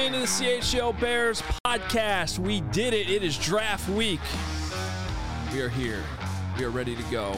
into the CHGO Bears podcast. We did it. It is draft week. We are here. We are ready to go.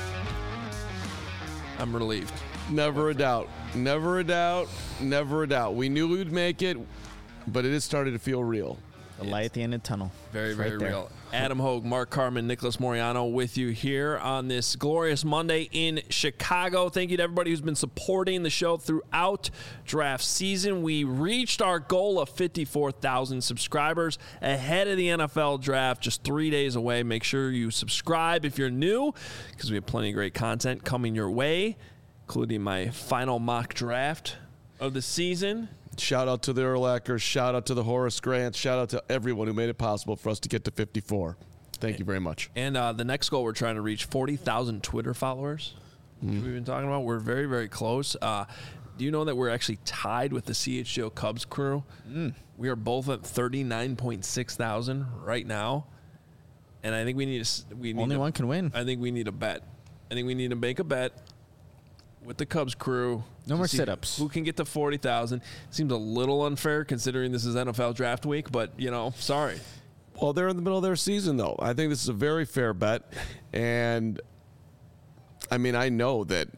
I'm relieved. Never a doubt. Never a doubt. Never a doubt. We knew we'd make it, but it is starting to feel real. The light at the end of the tunnel. Very, very right real. Adam Hogue, Mark Carman, Nicholas Moriano with you here on this glorious Monday in Chicago. Thank you to everybody who's been supporting the show throughout draft season. We reached our goal of 54,000 subscribers ahead of the NFL draft, just 3 days away. Make sure you subscribe if you're new, because we have plenty of great content coming your way, including my final mock draft of the season. Shout out to the Urlachers. Shout out to the Horace Grants. Shout out to everyone who made it possible for us to get to 54. Thank you very much. And the next goal, we're trying to reach 40,000 Twitter followers, which we've been talking about. We're very, very close. Do you know that we're actually tied with the CHGO Cubs crew? We are both at 39.6 thousand right now. And I think we need Only one can win. I think we need a bet. I think we need to make a bet with the Cubs crew. No more sit-ups. Who can get to 40,000? Seems a little unfair considering this is NFL draft week, but, sorry. Well, they're in the middle of their season, though. I think this is a very fair bet. And, I mean, I know that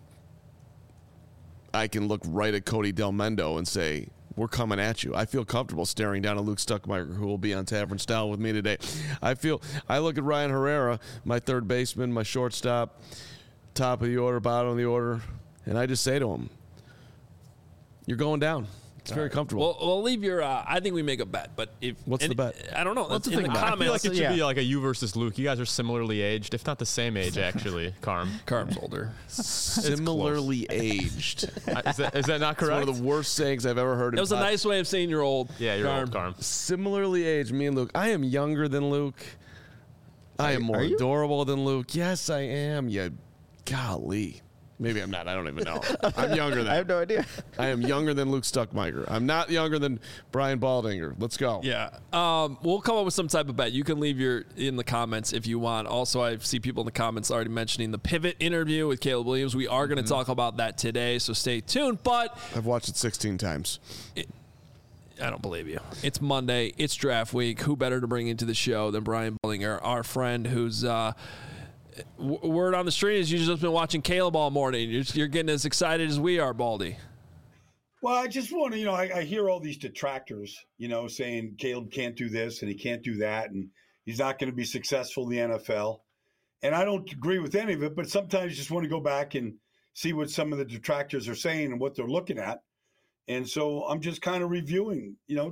I can look right at Cody Del Mendo and say, we're coming at you. I feel comfortable staring down at Luke Stuckmeyer, who will be on Tavern Style with me today. I look at Ryan Herrera, my third baseman, my shortstop, top of the order, bottom of the order, and I just say to him, you're going down. It's very comfortable. Well, we'll leave your I think we make a bet, but what's the bet? I don't know. What's the in thing the about it? I feel comments. like it should be like a you versus Luke. You guys are similarly aged, if not the same age, actually. Carm's older. Similarly aged. Is that not It's correct? one of the worst sayings I've ever heard. That was a nice way of saying you're old. Yeah, you're old, Carm. Similarly aged, me and Luke. I am younger than Luke. I am more adorable than Luke. Yes, I am. Golly. Maybe I'm not. I don't even know. I'm younger than. I have no idea. I am younger than Luke Stuckmeyer. I'm not younger than Brian Baldinger. Let's go. Yeah. We'll come up with some type of bet. You can leave in the comments if you want. Also, I see people in the comments already mentioning the Pivot interview with Caleb Williams. We are going to talk about that today, so stay tuned. But I've watched it 16 times. I don't believe you. It's Monday. It's draft week. Who better to bring into the show than Brian Baldinger, our friend who's word on the street is you've just been watching Caleb all morning. You're getting as excited as we are, Baldy. Well, I just want to, I hear all these detractors, saying Caleb can't do this and he can't do that and he's not going to be successful in the NFL. And I don't agree with any of it, but sometimes you just want to go back and see what some of the detractors are saying and what they're looking at. And so I'm just kind of reviewing, we got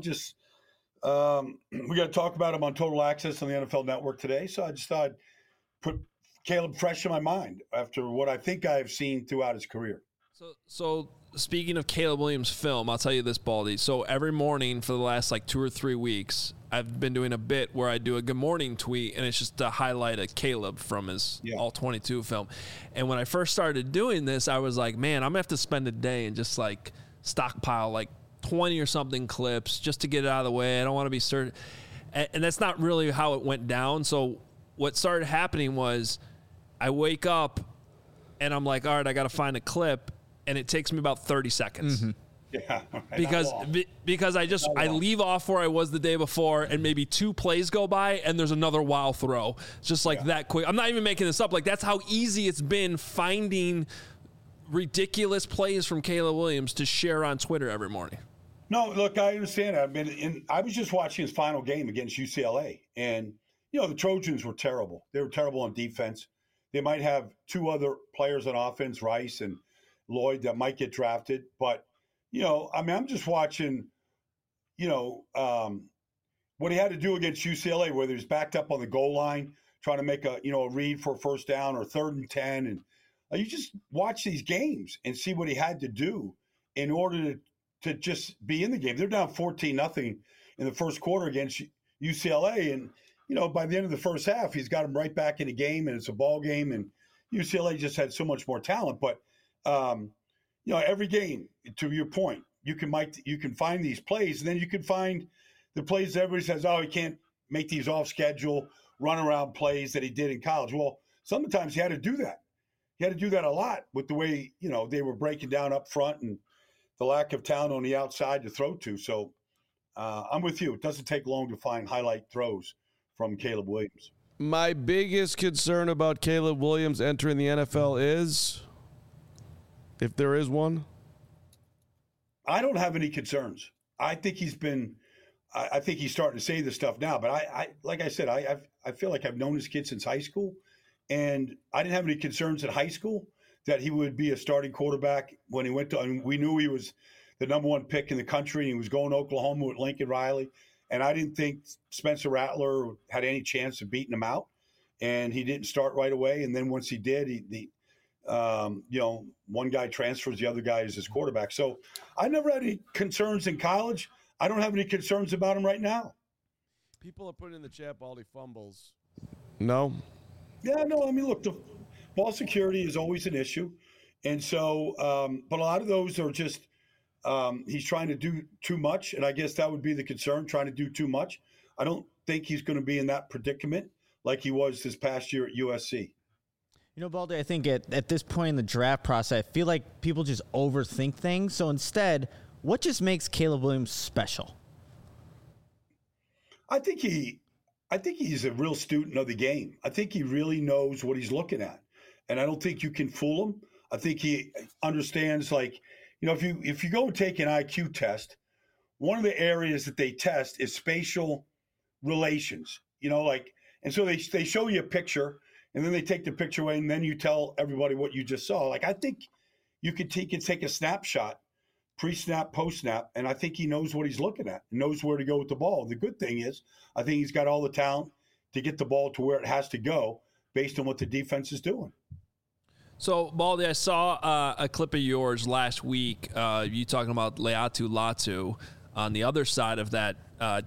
to talk about him on Total Access on the NFL Network today. So I just thought I'd put Caleb fresh in my mind after what I think I've seen throughout his career. So speaking of Caleb Williams film, I'll tell you this, Baldy. So every morning for the last 2 or 3 weeks, I've been doing a bit where I do a good morning tweet, and it's just to highlight a Caleb from his All 22 film. And when I first started doing this, I was like, man, I'm going to have to spend a day and just stockpile 20 or something clips just to get it out of the way. I don't want to be certain. And that's not really how it went down. So what started happening was I wake up and I'm like, all right, I got to find a clip, and it takes me about 30 seconds. Mm-hmm. Yeah, right. Because I leave off where I was the day before, and maybe 2 plays go by, and there's another wild throw. It's just that quick. I'm not even making this up. That's how easy it's been finding ridiculous plays from Caleb Williams to share on Twitter every morning. No, look, I understand. I was just watching his final game against UCLA, and the Trojans were terrible. They were terrible on defense. They might have 2 other players on offense, Rice and Lloyd, that might get drafted. But, I'm just watching, what he had to do against UCLA, whether he's backed up on the goal line, trying to make a read for a first down or 3rd and 10. And you just watch these games and see what he had to do in order to just be in the game. They're down 14-0 in the first quarter against UCLA. And, by the end of the first half, he's got them right back in the game, and it's a ball game. And UCLA just had so much more talent. But, every game, to your point, you can find these plays, and then you can find the plays that everybody says, oh, he can't make these off-schedule, run-around plays that he did in college. Well, sometimes he had to do that. He had to do that a lot with the way, they were breaking down up front and the lack of talent on the outside to throw to. So, I'm with you. It doesn't take long to find highlight throws from Caleb Williams. My biggest concern about Caleb Williams entering the NFL is, if there is one, I don't have any concerns. I think he's been. I think he's starting to say this stuff now. But I like I said, I feel like I've known this kid since high school, and I didn't have any concerns at high school that he would be a starting quarterback when he went to. And we knew he was the number one pick in the country, and he was going to Oklahoma with Lincoln Riley. And I didn't think Spencer Rattler had any chance of beating him out. And he didn't start right away. And then once he did, one guy transfers, the other guy is his quarterback. So I never had any concerns in college. I don't have any concerns about him right now. people are putting in the chat Baldy fumbles. No? Yeah, no, I mean, look, the ball security is always an issue. And so, but a lot of those are just, he's trying to do too much. And I guess that would be the concern, trying to do too much. I don't think he's going to be in that predicament like he was this past year at USC. You know, Baldy, I think at this point in the draft process, I feel like people just overthink things. So instead, what just makes Caleb Williams special? I think he's a real student of the game. I think he really knows what he's looking at. And I don't think you can fool him. I think he understands, like, you know, if you go and take an IQ test, one of the areas that they test is spatial relations, you know, like, and so they show you a picture and then they take the picture away and then you tell everybody what you just saw. Like, I think you could take a snapshot, pre-snap, post-snap, and I think he knows what he's looking at, knows where to go with the ball. The good thing is I think he's got all the talent to get the ball to where it has to go based on what the defense is doing. So, Baldy, I saw a clip of yours last week, you talking about Laiatu Latu on the other side of that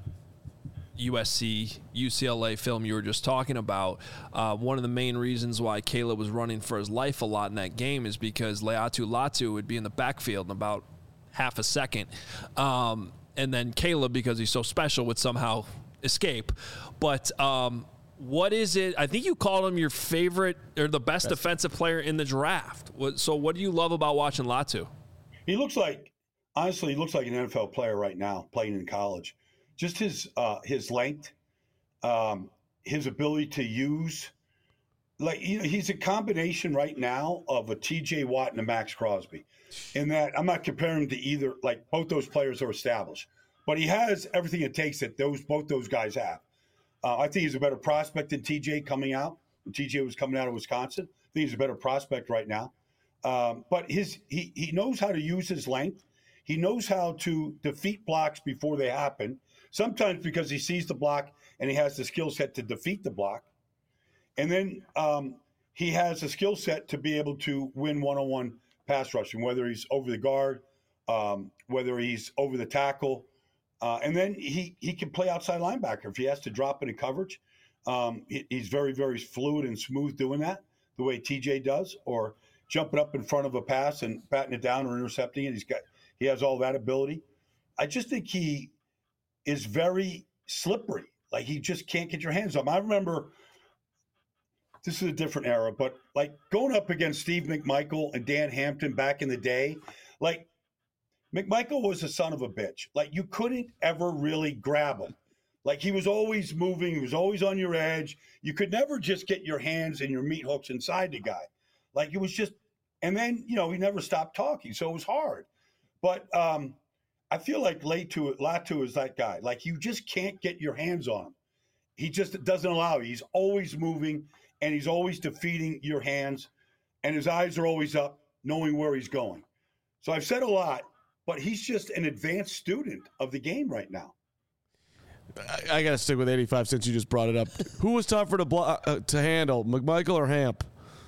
USC, UCLA film you were just talking about. One of the main reasons why Caleb was running for his life a lot in that game is because Laiatu Latu would be in the backfield in about half a second. And then Caleb, because he's so special, would somehow escape. But what is it? I think you called him your favorite or the best defensive player in the draft. So what do you love about watching Latu? He looks like, honestly, he looks like an NFL player right now playing in college. Just his length, his ability to use, like, you know, he's a combination right now of a T.J. Watt and a Max Crosby. In that, I'm not comparing him to either, like, both those players are established, but he has everything it takes that both those guys have. I think he's a better prospect than T.J. coming out. When T.J. was coming out of Wisconsin, I think he's a better prospect right now. But he knows how to use his length. He knows how to defeat blocks before they happen. Sometimes because he sees the block and he has the skill set to defeat the block. And then he has a skill set to be able to win one-on-one pass rushing, whether he's over the guard, whether he's over the tackle. And then he can play outside linebacker if he has to drop into coverage. He's very, very fluid and smooth doing that, the way TJ does, or jumping up in front of a pass and batting it down or intercepting it. He has all that ability. I just think he is very slippery. Like, he just can't get your hands on him. I remember, this is a different era, but like going up against Steve McMichael and Dan Hampton back in the day, like, McMichael was a son of a bitch. Like, you couldn't ever really grab him. Like, he was always moving. He was always on your edge. You could never just get your hands and your meat hooks inside the guy. Like, it was just, and then, you know, he never stopped talking. So it was hard. But I feel like Latu is that guy. Like, you just can't get your hands on him. He just doesn't allow you. He's always moving and he's always defeating your hands. And his eyes are always up, knowing where he's going. So I've said a lot. But he's just an advanced student of the game right now. I got to stick with 85 since you just brought it up. Who was tougher to handle, McMichael or Hamp?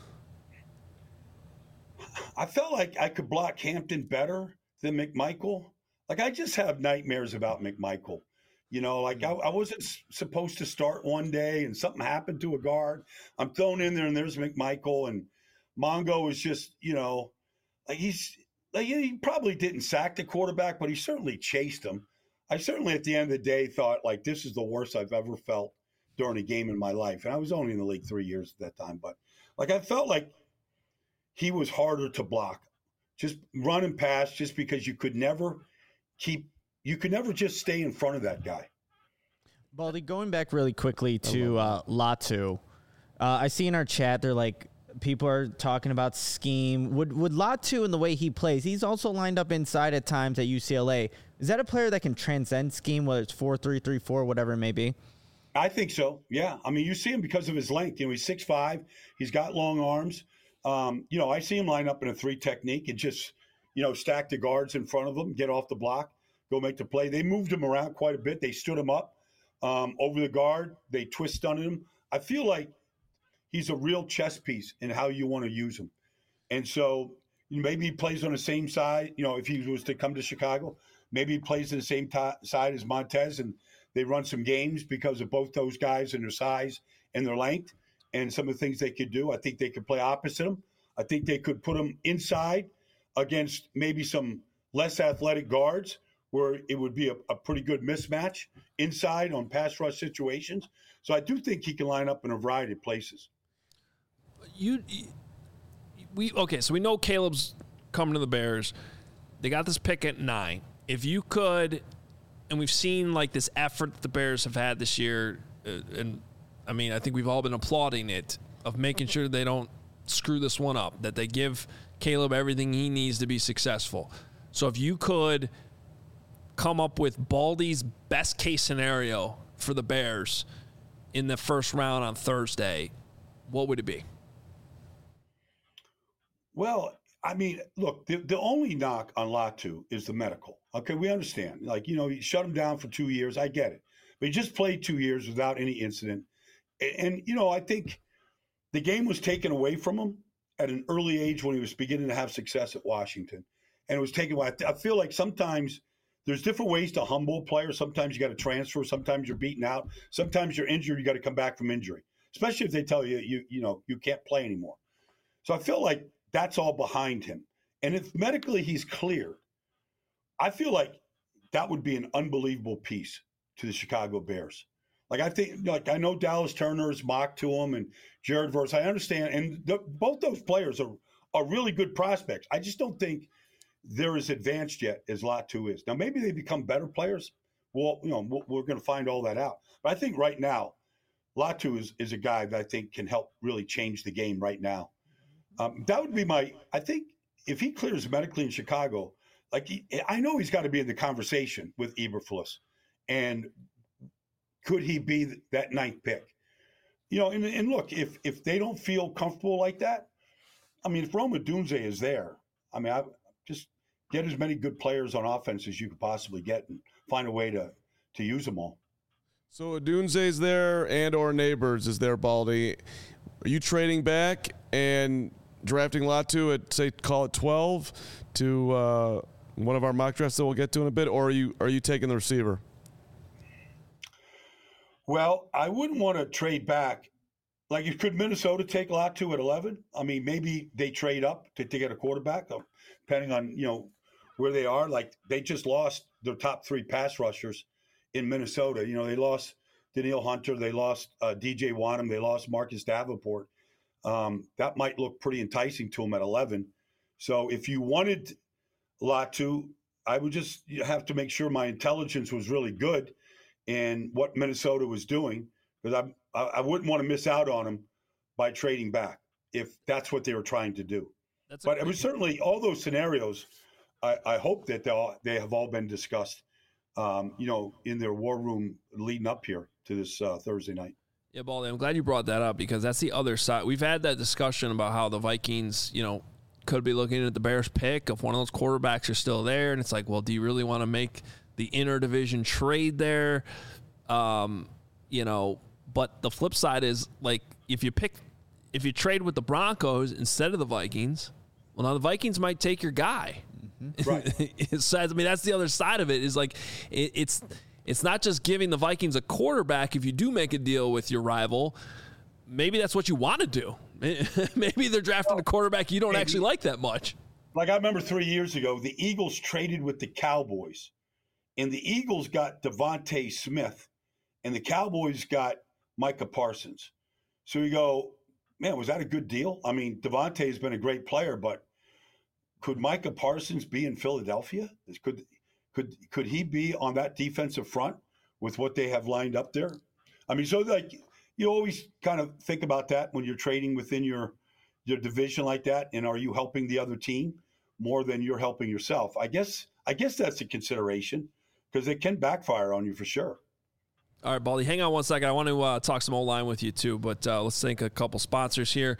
I felt like I could block Hampton better than McMichael. Like, I just have nightmares about McMichael. You know, like, I wasn't supposed to start one day and something happened to a guard. I'm thrown in there and there's McMichael, and Mongo is just, you know, like, he probably didn't sack the quarterback, but he certainly chased him. I certainly, at the end of the day, thought, like, this is the worst I've ever felt during a game in my life. And I was only in the league 3 years at that time. But, like, I felt like he was harder to block. Just running past, just because you could never keep you can never just stay in front of that guy. Baldy, going back really quickly to Latu, I see in our chat they're like people are talking about scheme. Would Latu and the way he plays, he's also lined up inside at times at UCLA. Is that a player that can transcend scheme, whether it's 4-3-3-4, whatever it may be? I think so. Yeah. I mean, you see him because of his length. You know, he's 6'5". He's got long arms. You know, I see him line up in a 3 technique and just, you know, stack the guards in front of him, get off the block, go make the play. They moved him around quite a bit. They stood him up over the guard. They twist stunted him. I feel like he's a real chess piece in how you want to use him. And so maybe he plays on the same side. You know, if he was to come to Chicago, maybe he plays on the same side as Montez, and they run some games because of both those guys and their size and their length and some of the things they could do. I think they could play opposite him. I think they could put him inside against maybe some less athletic guards where it would be a pretty good mismatch inside on pass rush situations. So I do think he can line up in a variety of places. So we know Caleb's coming to the Bears. They got this pick at 9. If you could, and we've seen like this effort that the Bears have had this year, and I mean, I think we've all been applauding it, of making sure they don't screw this one up, that they give Caleb everything he needs to be successful. So if you could come up with Baldy's best case scenario for the Bears in the first round on Thursday, what would it be? Well, I mean, look, the only knock on Latu is the medical. Okay, we understand. Like, you know, you shut him down for 2 years. I get it. But he just played 2 years without any incident. And, you know, I think the game was taken away from him at an early age when he was beginning to have success at Washington. And it was taken away. I feel like sometimes there's different ways to humble a player. Sometimes you got to transfer. Sometimes you're beaten out. Sometimes you're injured. You got to come back from injury, especially if they tell you, you can't play anymore. So I feel like that's all behind him. And if medically he's cleared, I feel like that would be an unbelievable piece to the Chicago Bears. Like, I think, like, I know Dallas Turner is mocked to him and Jared Verse. I understand. And both those players are really good prospects. I just don't think they're as advanced yet as Latu is. Now, maybe they become better players. Well, you know, we're going to find all that out. But I think right now, Latu is a guy that I think can help really change the game right now. That would be I think if he clears medically in Chicago, like I know he's got to be in the conversation with Eberflus. And could he be that 9th pick? You know, and look, if they don't feel comfortable like that, I mean, if Rome Odunze is there, I mean, I just get as many good players on offense as you could possibly get and find a way to use them all. So Odunze's there and or Neighbors is there, Baldy. Are you trading back and drafting Latu at, say, call it 12 to one of our mock drafts that we'll get to in a bit, or are you taking the receiver? Well, I wouldn't want to trade back. Like, could Minnesota take Latu at 11? I mean, maybe they trade up to get a quarterback, depending on, you know, where they are. Like, they just lost their top 3 pass rushers in Minnesota. You know, they lost Danielle Hunter. They lost DJ Wanham. They lost Marcus Davenport. That might look pretty enticing to them at 11. So if you wanted Latu, I would just have to make sure my intelligence was really good in what Minnesota was doing, because I wouldn't want to miss out on him by trading back if that's what they were trying to do. But it was certainly all those scenarios. I hope that they have all been discussed, you know, in their war room leading up here to this Thursday night. Yeah, Baldy, I'm glad you brought that up, because that's the other side. We've had that discussion about how the Vikings, you know, could be looking at the Bears pick if one of those quarterbacks are still there. And it's like, well, do you really want to make the interdivision trade there? You know, but the flip side is, like, if you trade with the Broncos instead of the Vikings, well, now the Vikings might take your guy. Mm-hmm. Right. So, I mean, that's the other side of it, is like, it's not just giving the Vikings a quarterback if you do make a deal with your rival. Maybe that's what you want to do. Maybe they're drafting a quarterback you don't actually like that much. Like, I remember 3 years ago, the Eagles traded with the Cowboys, and the Eagles got Devontae Smith, and the Cowboys got Micah Parsons. So you go, man, was that a good deal? I mean, Devontae has been a great player, but could Micah Parsons be in Philadelphia? Could he be on that defensive front with what they have lined up there? I mean, so like you always kind of think about that when you're trading within your division like that, and are you helping the other team more than you're helping yourself? I guess that's a consideration because it can backfire on you for sure. All right, Baldy, hang on one second. I want to talk some O-line with you too, but let's thank a couple sponsors here.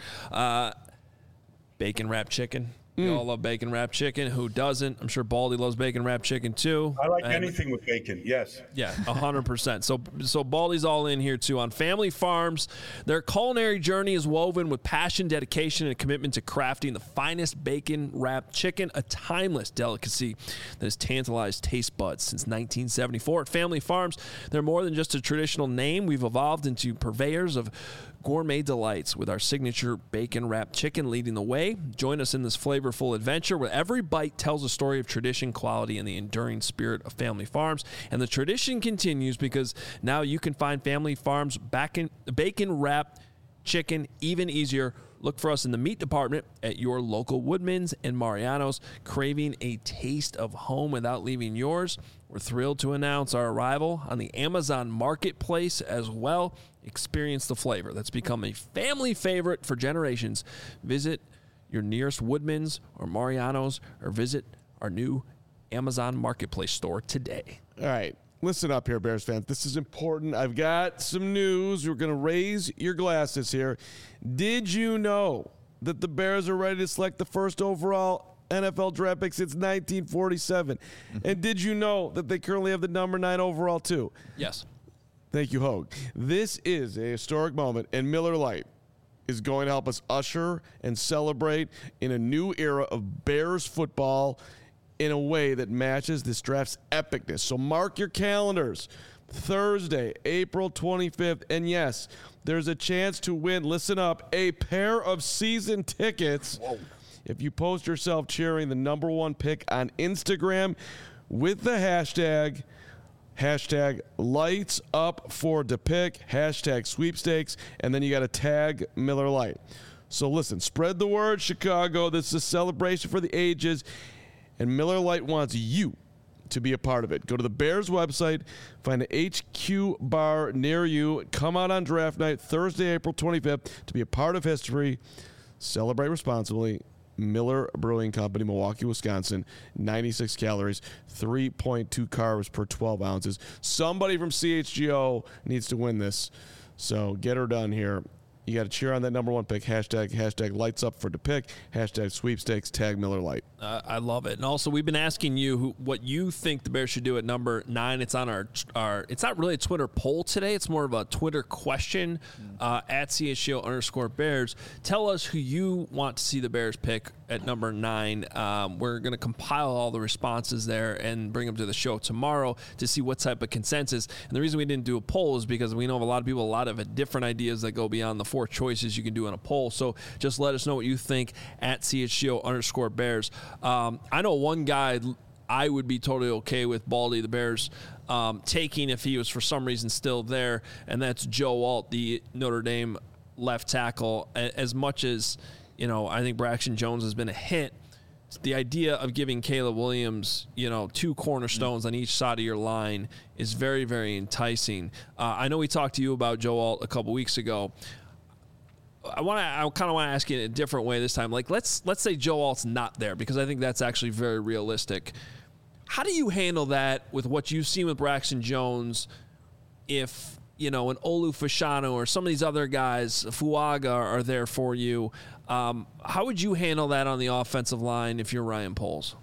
Bacon Wrapped Chicken. We all love bacon wrapped chicken. Who doesn't? I'm sure Baldy loves bacon wrapped chicken too. I like anything with bacon. Yes. Yeah, 100%. So Baldy's all in here too. On Family Farms, their culinary journey is woven with passion, dedication, and commitment to crafting the finest bacon wrapped chicken, a timeless delicacy that has tantalized taste buds since 1974. At Family Farms, they're more than just a traditional name. We've evolved into purveyors of gourmet delights with our signature bacon wrapped chicken leading the way. Join us in this flavorful adventure where every bite tells a story of tradition, quality, and the enduring spirit of Family Farms. And the tradition continues because now you can find Family Farms bacon wrapped chicken even easier. Look for us in the meat department at your local Woodman's and Mariano's. Craving a taste of home without leaving yours? We're thrilled to announce our arrival on the Amazon Marketplace as well. Experience the flavor that's become a family favorite for generations. Visit your nearest Woodman's or Mariano's or visit our new Amazon Marketplace store today. All right. Listen up here, Bears fans. This is important. I've got some news. We're going to raise your glasses here. Did you know that the Bears are ready to select the first overall NFL draft pick since 1947? And did you know that they currently have the number 9 overall too? Yes. Thank you, Hogue. This is a historic moment, and Miller Lite is going to help us usher and celebrate in a new era of Bears football in a way that matches this draft's epicness. So mark your calendars. Thursday, April 25th. And yes, there's a chance to win, listen up, a pair of season tickets. Whoa. If you post yourself cheering the number 1 pick on Instagram with the hashtag lights up for the pick, hashtag sweepstakes, and then you got to tag Miller Lite. So listen, spread the word, Chicago. This is a celebration for the ages, and Miller Lite wants you to be a part of it. Go to the Bears website, find an HQ bar near you, come out on draft night, Thursday, April 25th, to be a part of history. Celebrate responsibly. Miller Brewing Company, Milwaukee, Wisconsin, 96 calories, 3.2 carbs per 12 ounces. Somebody from CHGO needs to win this, so get her done here. You got to cheer on that number 1 pick. Hashtag lights up for the pick. Hashtag sweepstakes. Tag Miller Lite. I love it. And also, we've been asking you what you think the Bears should do at number 9. It's on our it's not really a Twitter poll today. It's more of a Twitter question at CHGO_Bears. Tell us who you want to see the Bears pick at number 9. We're going to compile all the responses there and bring them to the show tomorrow to see what type of consensus. And the reason we didn't do a poll is because we know of a lot of people, a lot of different ideas that go beyond the 4 choices you can do in a poll. So just let us know what you think at CHGO_Bears. I know one guy I would be totally okay with Baldy, the Bears, taking if he was for some reason still there, and that's Joe Alt, the Notre Dame left tackle. As much as, I think Braxton Jones has been a hit, the idea of giving Caleb Williams, 2 cornerstones on each side of your line is very, very enticing. I know we talked to you about Joe Alt a couple weeks ago. I kind of want to ask you in a different way this time. Like, let's say Joe Alt's not there, because I think that's actually very realistic. How do you handle that with what you've seen with Braxton Jones? If an Olu Fashanu or some of these other guys, Fuaga, are there for you, how would you handle that on the offensive line if you're Ryan Poles?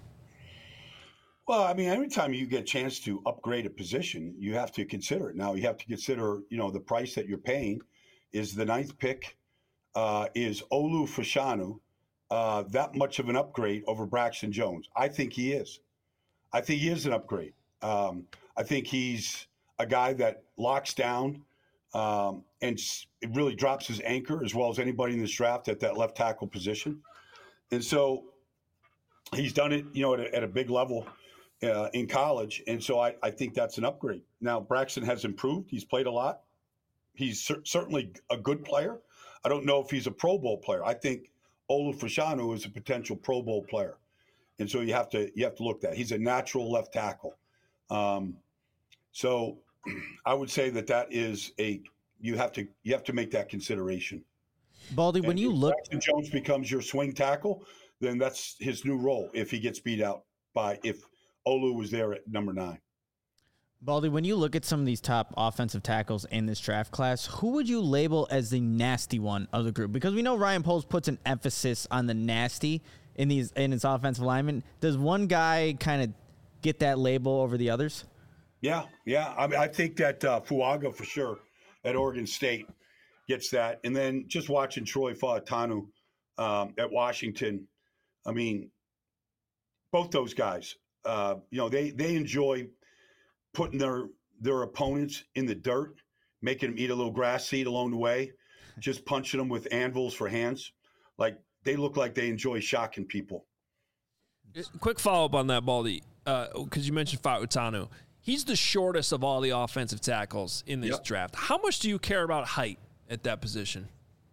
Well, I mean, every time you get a chance to upgrade a position, you have to consider it. Now, you have to consider, the price that you're paying. Is the 9th pick, is Olu Fashanu that much of an upgrade over Braxton Jones? I think he is. I think he is an upgrade. I think he's a guy that locks down and it really drops his anchor as well as anybody in this draft at that left tackle position. And so he's done it, at a big level in college. And so I think that's an upgrade. Now, Braxton has improved. He's played a lot. He's certainly a good player. I don't know if he's a Pro Bowl player. I think Olu Fashanu is a potential Pro Bowl player. And so you have to look at that. He's a natural left tackle. So I would say that is you have to make that consideration. Baldy, when And you if look, Jackson Jones becomes your swing tackle, then that's his new role. If he gets beat out if Olu was there at number 9. Baldy, when you look at some of these top offensive tackles in this draft class, who would you label as the nasty one of the group? Because we know Ryan Poles puts an emphasis on the nasty in his offensive linemen. Does one guy kind of get that label over the others? Yeah. I mean, I think that Fuaga for sure at Oregon State gets that. And then just watching Troy Fautanu at Washington, I mean, both those guys, they enjoy putting their opponents in the dirt, making them eat a little grass seed along the way, just punching them with anvils for hands. Like, they look like they enjoy shocking people. Quick follow-up on that, Baldy, because you mentioned Fautanu. He's the shortest of all the offensive tackles in this draft. How much do you care about height at that position?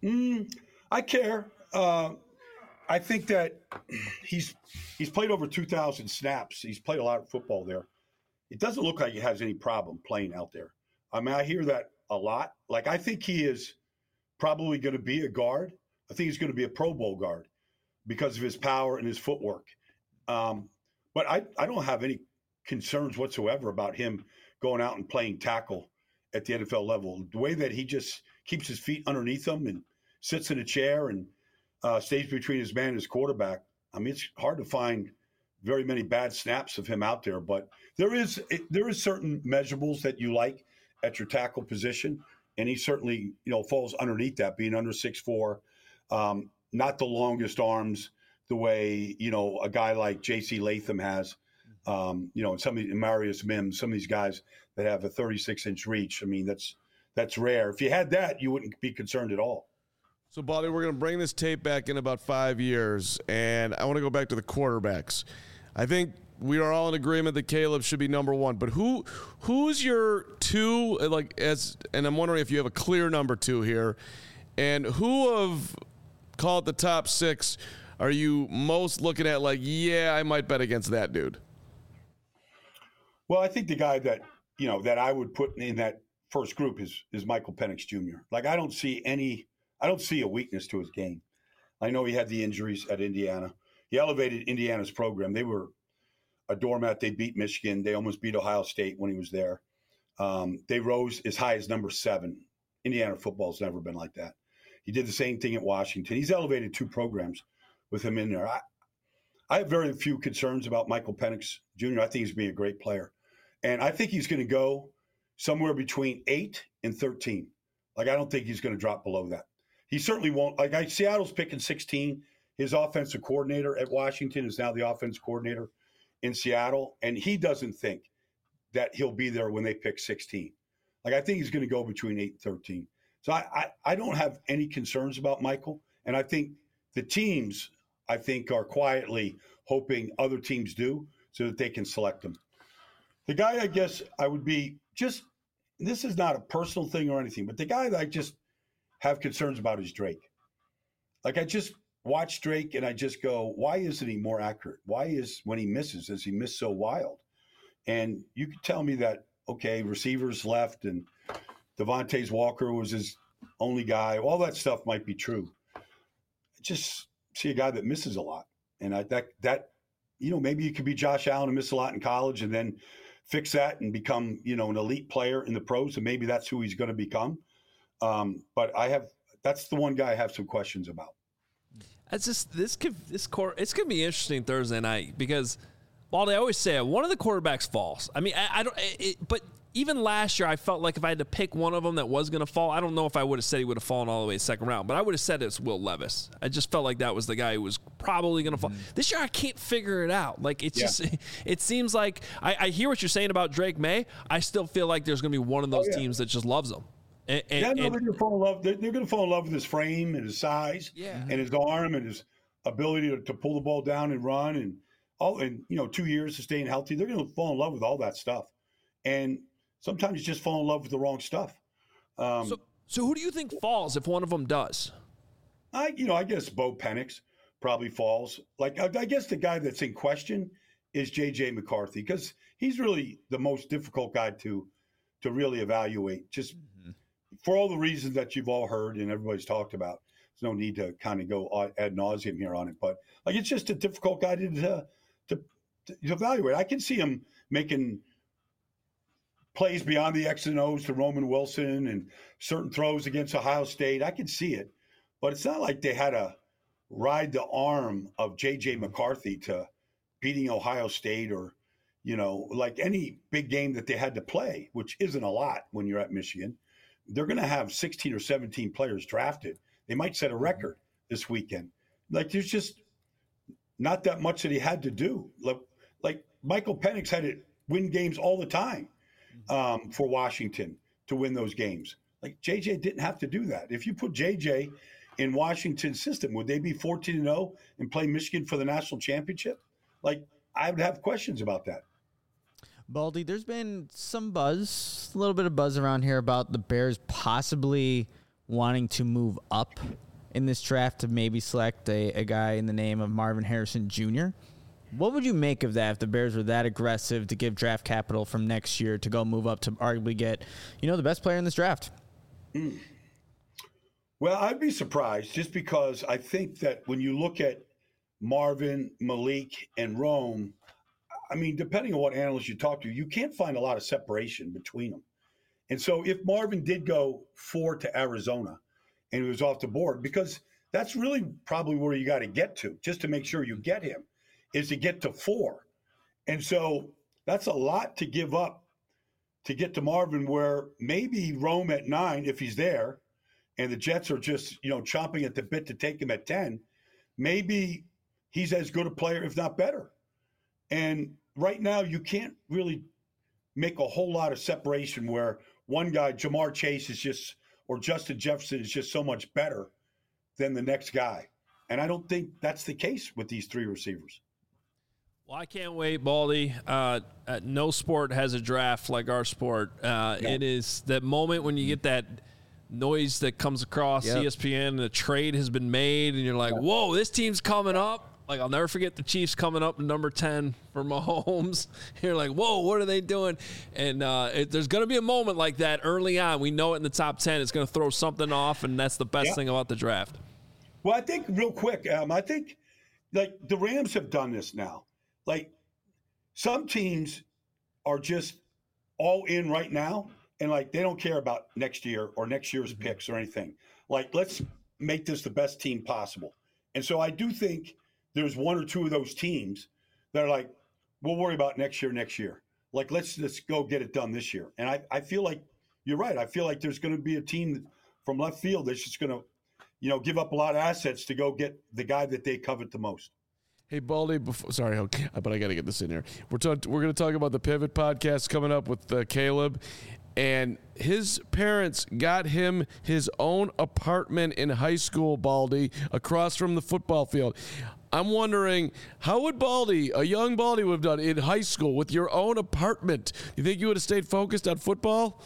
I care. I think that he's played over 2,000 snaps. He's played a lot of football there. It doesn't look like he has any problem playing out there. I mean, I hear that a lot. Like, I think he is probably going to be a guard. I think he's going to be a Pro Bowl guard because of his power and his footwork. But I don't have any concerns whatsoever about him going out and playing tackle at the NFL level. The way that he just keeps his feet underneath him and sits in a chair and stays between his man and his quarterback. I mean, it's hard to find very many bad snaps of him out there, but there is certain measurables that you like at your tackle position, and he certainly falls underneath that, being under 6'4", not the longest arms the way a guy like J.C. Latham has, and Marius Mims, some of these guys that have a 36-inch reach. I mean, that's rare. If you had that, you wouldn't be concerned at all. So, Baldy, we're going to bring this tape back in about 5 years, and I want to go back to the quarterbacks. I think we are all in agreement that Caleb should be number 1, but who's your 2? And I'm wondering if you have a clear number 2 here, and who of, call it the top 6, are you most looking at? Like, yeah, I might bet against that dude. Well, I think the guy that that I would put in that first group is Michael Penix Jr. Like, I don't see a weakness to his game. I know he had the injuries at Indiana. He elevated Indiana's program. They were a doormat. They beat Michigan. They almost beat Ohio State when he was there. They rose as high as number 7. Indiana football's never been like that. He did the same thing at Washington. He's elevated 2 programs with him in there. I have very few concerns about Michael Penix Jr. I think he's going to be a great player. And I think he's going to go somewhere between 8 and 13. Like, I don't think he's going to drop below that. He certainly won't. Like, Seattle's picking 16. His offensive coordinator at Washington is now the offensive coordinator in Seattle, and he doesn't think that he'll be there when they pick 16. Like, I think he's going to go between 8 and 13. So I don't have any concerns about Michael, and I think the teams, are quietly hoping other teams do so that they can select him. The guy I guess I would be this is not a personal thing or anything, but the guy that I just have concerns about is Drake. Like, I just watch Drake and I just go, why isn't he more accurate? Why when he misses, does he miss so wild? And you could tell me that, okay, receivers left and Devontae Walker was his only guy. All that stuff might be true. I just see a guy that misses a lot. And maybe you could be Josh Allen and miss a lot in college and then fix that and become, an elite player in the pros. And maybe that's who he's going to become. But that's the one guy I have some questions about. It's going to be interesting Thursday night because, Baldy, I always say one of the quarterbacks falls. I mean, but even last year, I felt like if I had to pick one of them that was going to fall, I don't know if I would have said he would have fallen all the way second round, but I would have said it's Will Levis. I just felt like that was the guy who was probably going to fall. This year, I can't figure it out. Like, it seems like I hear what you're saying about Drake May. I still feel like there's going to be one of those teams that just loves him. They're going to fall in love. They're going to fall in love with his frame and his size, and his arm and his ability to pull the ball down and run and all. And 2 years of staying healthy, they're going to fall in love with all that stuff. And sometimes you just fall in love with the wrong stuff. So who do you think falls if one of them does? I guess Bo Penix probably falls. Like, I guess the guy that's in question is J.J. McCarthy because he's really the most difficult guy to really evaluate, just for all the reasons that you've all heard and everybody's talked about. There's no need to kind of go ad nauseum here on it, but like it's just a difficult guy to evaluate. I can see him making plays beyond the X and O's to Roman Wilson and certain throws against Ohio State. I can see it, but it's not like they had to ride the arm of J.J. McCarthy to beating Ohio State or, like any big game that they had to play, which isn't a lot when you're at Michigan. They're going to have 16 or 17 players drafted. They might set a record this weekend. Like, there's just not that much that he had to do. Like Michael Penix had to win games all the time for Washington to win those games. Like, JJ didn't have to do that. If you put JJ in Washington's system, would they be 14-0 and play Michigan for the national championship? Like, I would have questions about that. Baldy, there's been some buzz, a little bit of buzz around here about the Bears possibly wanting to move up in this draft to maybe select a guy in the name of Marvin Harrison Jr. What would you make of that if the Bears were that aggressive to give draft capital from next year to go move up to arguably get, the best player in this draft? Well, I'd be surprised just because I think that when you look at Marvin, Malik, and Rome, I mean, depending on what analysts you talk to, you can't find a lot of separation between them. And so if Marvin did go 4 to Arizona and he was off the board, because that's really probably where you got to get to just to make sure you get him, is to get to 4. And so that's a lot to give up to get to Marvin, where maybe Rome at 9, if he's there, and the Jets are just, chomping at the bit to take him at 10, maybe he's as good a player, if not better. And right now, you can't really make a whole lot of separation where one guy, Jamar Chase, is just, or Justin Jefferson is just so much better than the next guy. And I don't think that's the case with these 3 receivers. Well, I can't wait, Baldy. No sport has a draft like our sport. It is that moment when you get that noise that comes across ESPN and a trade has been made and you're like, whoa, this team's coming up. Like, I'll never forget the Chiefs coming up number 10 for Mahomes. You're like, whoa, what are they doing? And there's going to be a moment like that early on. We know it in the top 10. It's going to throw something off, and that's the best thing about the draft. Well, I think real quick, I think, like, the Rams have done this now. Like, some teams are just all in right now, and, like, they don't care about next year or next year's picks or anything. Like, let's make this the best team possible. And so I do think there's 1 or 2 of those teams that are like, we'll worry about next year. Like, let's go get it done this year. And I feel like you're right. I feel like there's going to be a team from left field that's just going to, give up a lot of assets to go get the guy that they covet the most. Hey, Baldy, sorry, but I got to get this in here. We're going to talk about the Pivot podcast coming up with Caleb. And his parents got him his own apartment in high school, Baldy, across from the football field. I'm wondering, how would a young Baldy would have done in high school with your own apartment? You think you would have stayed focused on football?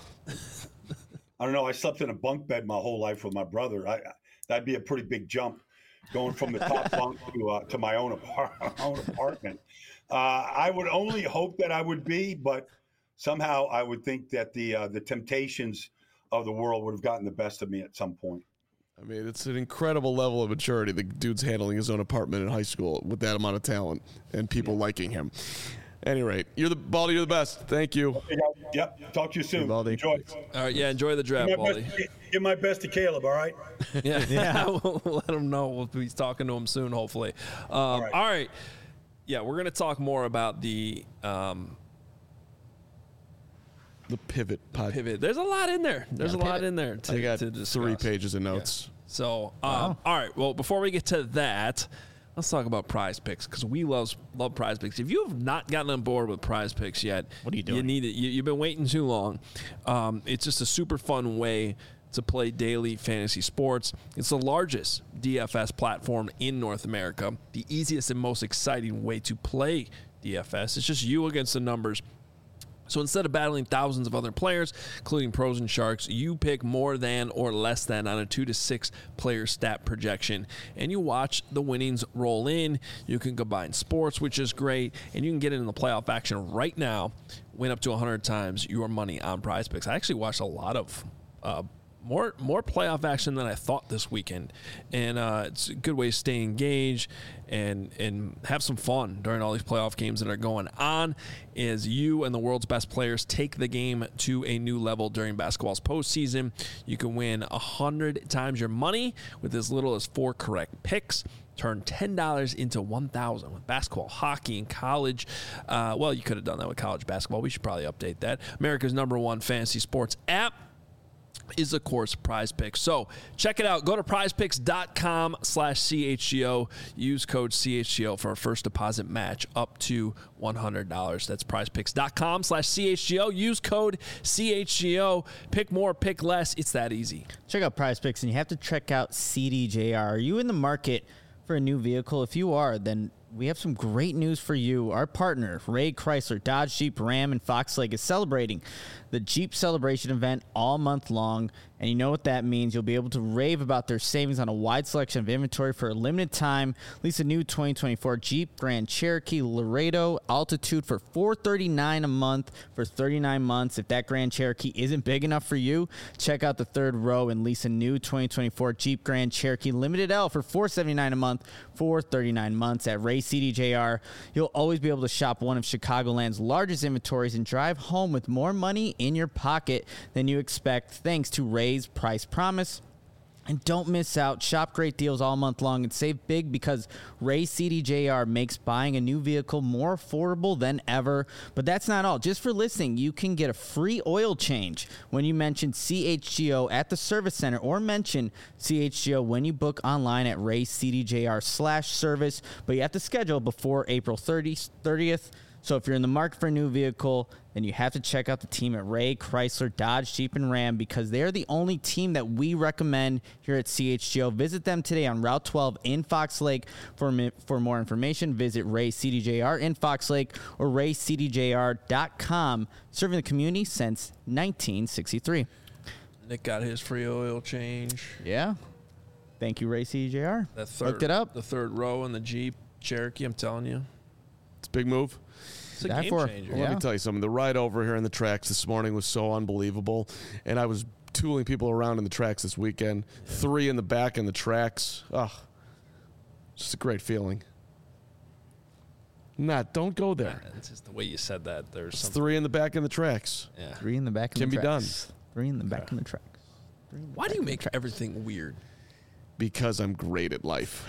I don't know. I slept in a bunk bed my whole life with my brother. That'd be a pretty big jump, going from the top bunk to my own apartment. I would only hope that I would be, but somehow I would think that the temptations of the world would have gotten the best of me at some point. I mean, it's an incredible level of maturity. The dude's handling his own apartment in high school with that amount of talent and people liking him. At any rate, Baldy, you're the best. Thank you. Okay, yep. Talk to you soon. Hey, Baldy. Enjoy. All right, enjoy the draft, Baldy. Give my best to Caleb, all right? Yeah. We'll let him know. We'll be talking to him soon, hopefully. All right. Yeah, we're going to talk more about the Pivot podcast. Pivot. There's a lot in there. There's a lot in there I got to discuss. 3 pages of notes. Yeah. So, all right. Well, before we get to that, let's talk about Prize Picks, because we love Prize Picks. If you have not gotten on board with Prize Picks yet, what are you doing? You need it. You've been waiting too long. It's just a super fun way to play daily fantasy sports. It's the largest DFS platform in North America, the easiest and most exciting way to play DFS. It's just you against the numbers. So instead of battling thousands of other players, including pros and sharks, you pick more than or less than on a 2 to 6 player stat projection, and you watch the winnings roll in. You can combine sports, which is great, and you can get in the playoff action right now. Win up to 100 times your money on Prize Picks. I actually watched a lot of more playoff action than I thought this weekend, and it's a good way to stay engaged and have some fun during all these playoff games that are going on as you and the world's best players take the game to a new level during basketball's postseason. You can win 100 times your money with as little as 4 correct picks. Turn $10 into $1,000 with basketball, hockey, and college. Well, you could have done that with college basketball. We should probably update that. America's #1 fantasy sports app is, of course, Prize Picks. So check it out. Go to prizepicks.com/CHGO. Use code CHGO for a first deposit match up to $100. That's prizepicks.com/CHGO. Use code CHGO. Pick more, pick less. It's that easy. Check out Prize Picks, and you have to check out CDJR. Are you in the market for a new vehicle? If you are, then we have some great news for you. Our partner, Ray Chrysler, Dodge, Jeep, Ram, and Fox Lake, is celebrating the Jeep Celebration event all month long. And you know what that means. You'll be able to rave about their savings on a wide selection of inventory for a limited time. Lease a new 2024 Jeep Grand Cherokee Laredo Altitude for $439 a month for 39 months. If that Grand Cherokee isn't big enough for you, check out the third row and lease a new 2024 Jeep Grand Cherokee Limited L for $479 a month for 39 months at Ray CDJR. You'll always be able to shop one of Chicagoland's largest inventories and drive home with more money in your pocket than you expect, thanks to Ray's Price Promise. And don't miss out. Shop great deals all month long and save big because Ray CDJR makes buying a new vehicle more affordable than ever. But that's not all. Just for listening, you can get a free oil change when you mention CHGO at the service center or mention CHGO when you book online at RayCDJR/service. But you have to schedule before April 30th. So if you're in the market for a new vehicle, then you have to check out the team at Ray Chrysler, Dodge, Jeep, and Ram because they're the only team that we recommend here at CHGO. Visit them today on Route 12 in Fox Lake. For more information, visit Ray CDJR in Fox Lake or raycdjr.com. Serving the community since 1963. Nick got his free oil change. Yeah. Thank you, Ray CDJR. Looked it up. The third row in the Jeep Cherokee, I'm telling you. It's a big move. It's a game changer. Well, let me tell you something. The ride over here in the tracks this morning was so unbelievable. And I was tooling people around in the tracks this weekend. 3 in the back in the tracks. Just a great feeling. Don't go there. It's just the way you said that. There's It's 3 in the back in the tracks. Yeah. 3 in the back in Can the be tracks. 3 in the back in the tracks. Why do you make everything weird? Because I'm great at life.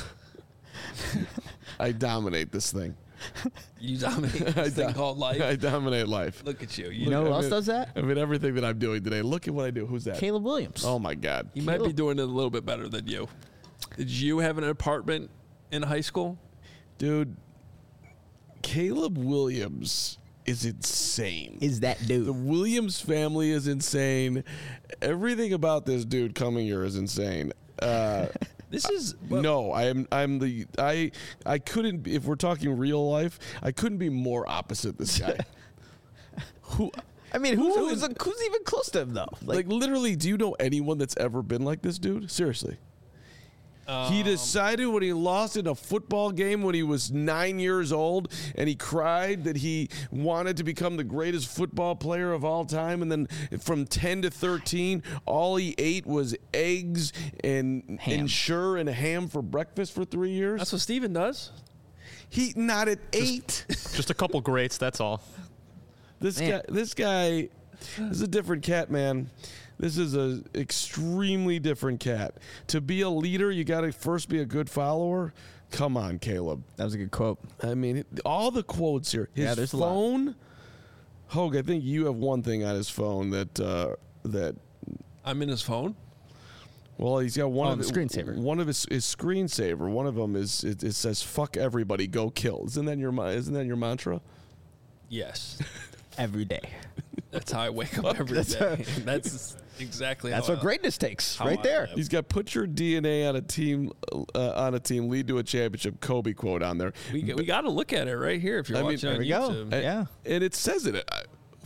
I dominate this thing. You dominate this thing called life. I dominate life. Look at you. You know who else does that? I mean, everything that I'm doing today. Look at what I do. Who's that? Caleb Williams. Oh, my God. He might be doing it a little bit better than you. Did you have an apartment in high school? Dude, Caleb Williams is insane. Is that The dude? Williams family is insane. Everything about this dude coming here is insane. This is No, I couldn't, if we're talking real life, I couldn't be more opposite this guy. Who's even close to him though? like literally, do you know anyone that's ever been like this dude? Seriously. He decided when he lost in a football game when he was 9 years old, and he cried that he wanted to become the greatest football player of all time. And then from 10 to 13, all he ate was eggs and Ensure and ham for breakfast for 3 years. That's what Steven does. He not at 8. Just a couple greats, that's all. This guy is a different cat, man. This is an extremely different cat. To be a leader, you got to first be a good follower. Come on, Caleb. That was a good quote. I mean, all the quotes here. His there's a lot. phone. Hogue, I think you have one thing on his phone that. I'm in his phone. Well, he's got one of the screensaver. One of his screensaver. One of them is it says "fuck everybody, go kill." Isn't that your mantra? Yes. Every day. That's how I wake up every day. That's exactly That's how what greatness takes, how right I there. live. He's got "put your DNA on a team, lead to a championship." Kobe quote on there. We got to look at it right here if you're I mean, watching there on we go. YouTube. Yeah. And it says it.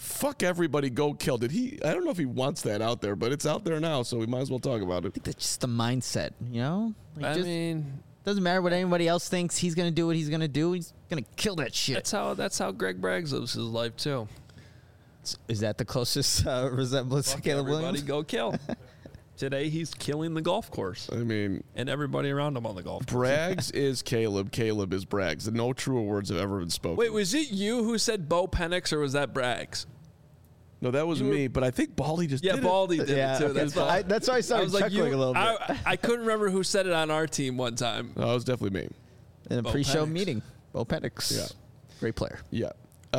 fuck everybody, go kill. Did he? I don't know if he wants that out there, but it's out there now, so we might as well talk about it. I think that's just the mindset, you know? Like, I mean, doesn't matter what anybody else thinks. He's going to do what he's going to do. He's going to kill that shit. that's how Greg Braggs lives his life too. Is that the closest resemblance to Fuck Caleb everybody, Williams? go kill. Today he's killing the golf course. I mean, and everybody around him on the golf course. Braggs is Caleb. Caleb is Braggs. No truer words have ever been spoken. Wait, was it you who said Bo Penix or was that Braggs? No, that was me, but I think Baldy just did Baldy did it too. Okay, that's why I started chuckling a little bit. I couldn't remember who said it on our team one time. No, it was definitely me. In a Bo pre-show Penix. meeting. Bo Penix. Yeah. Great player. Yeah.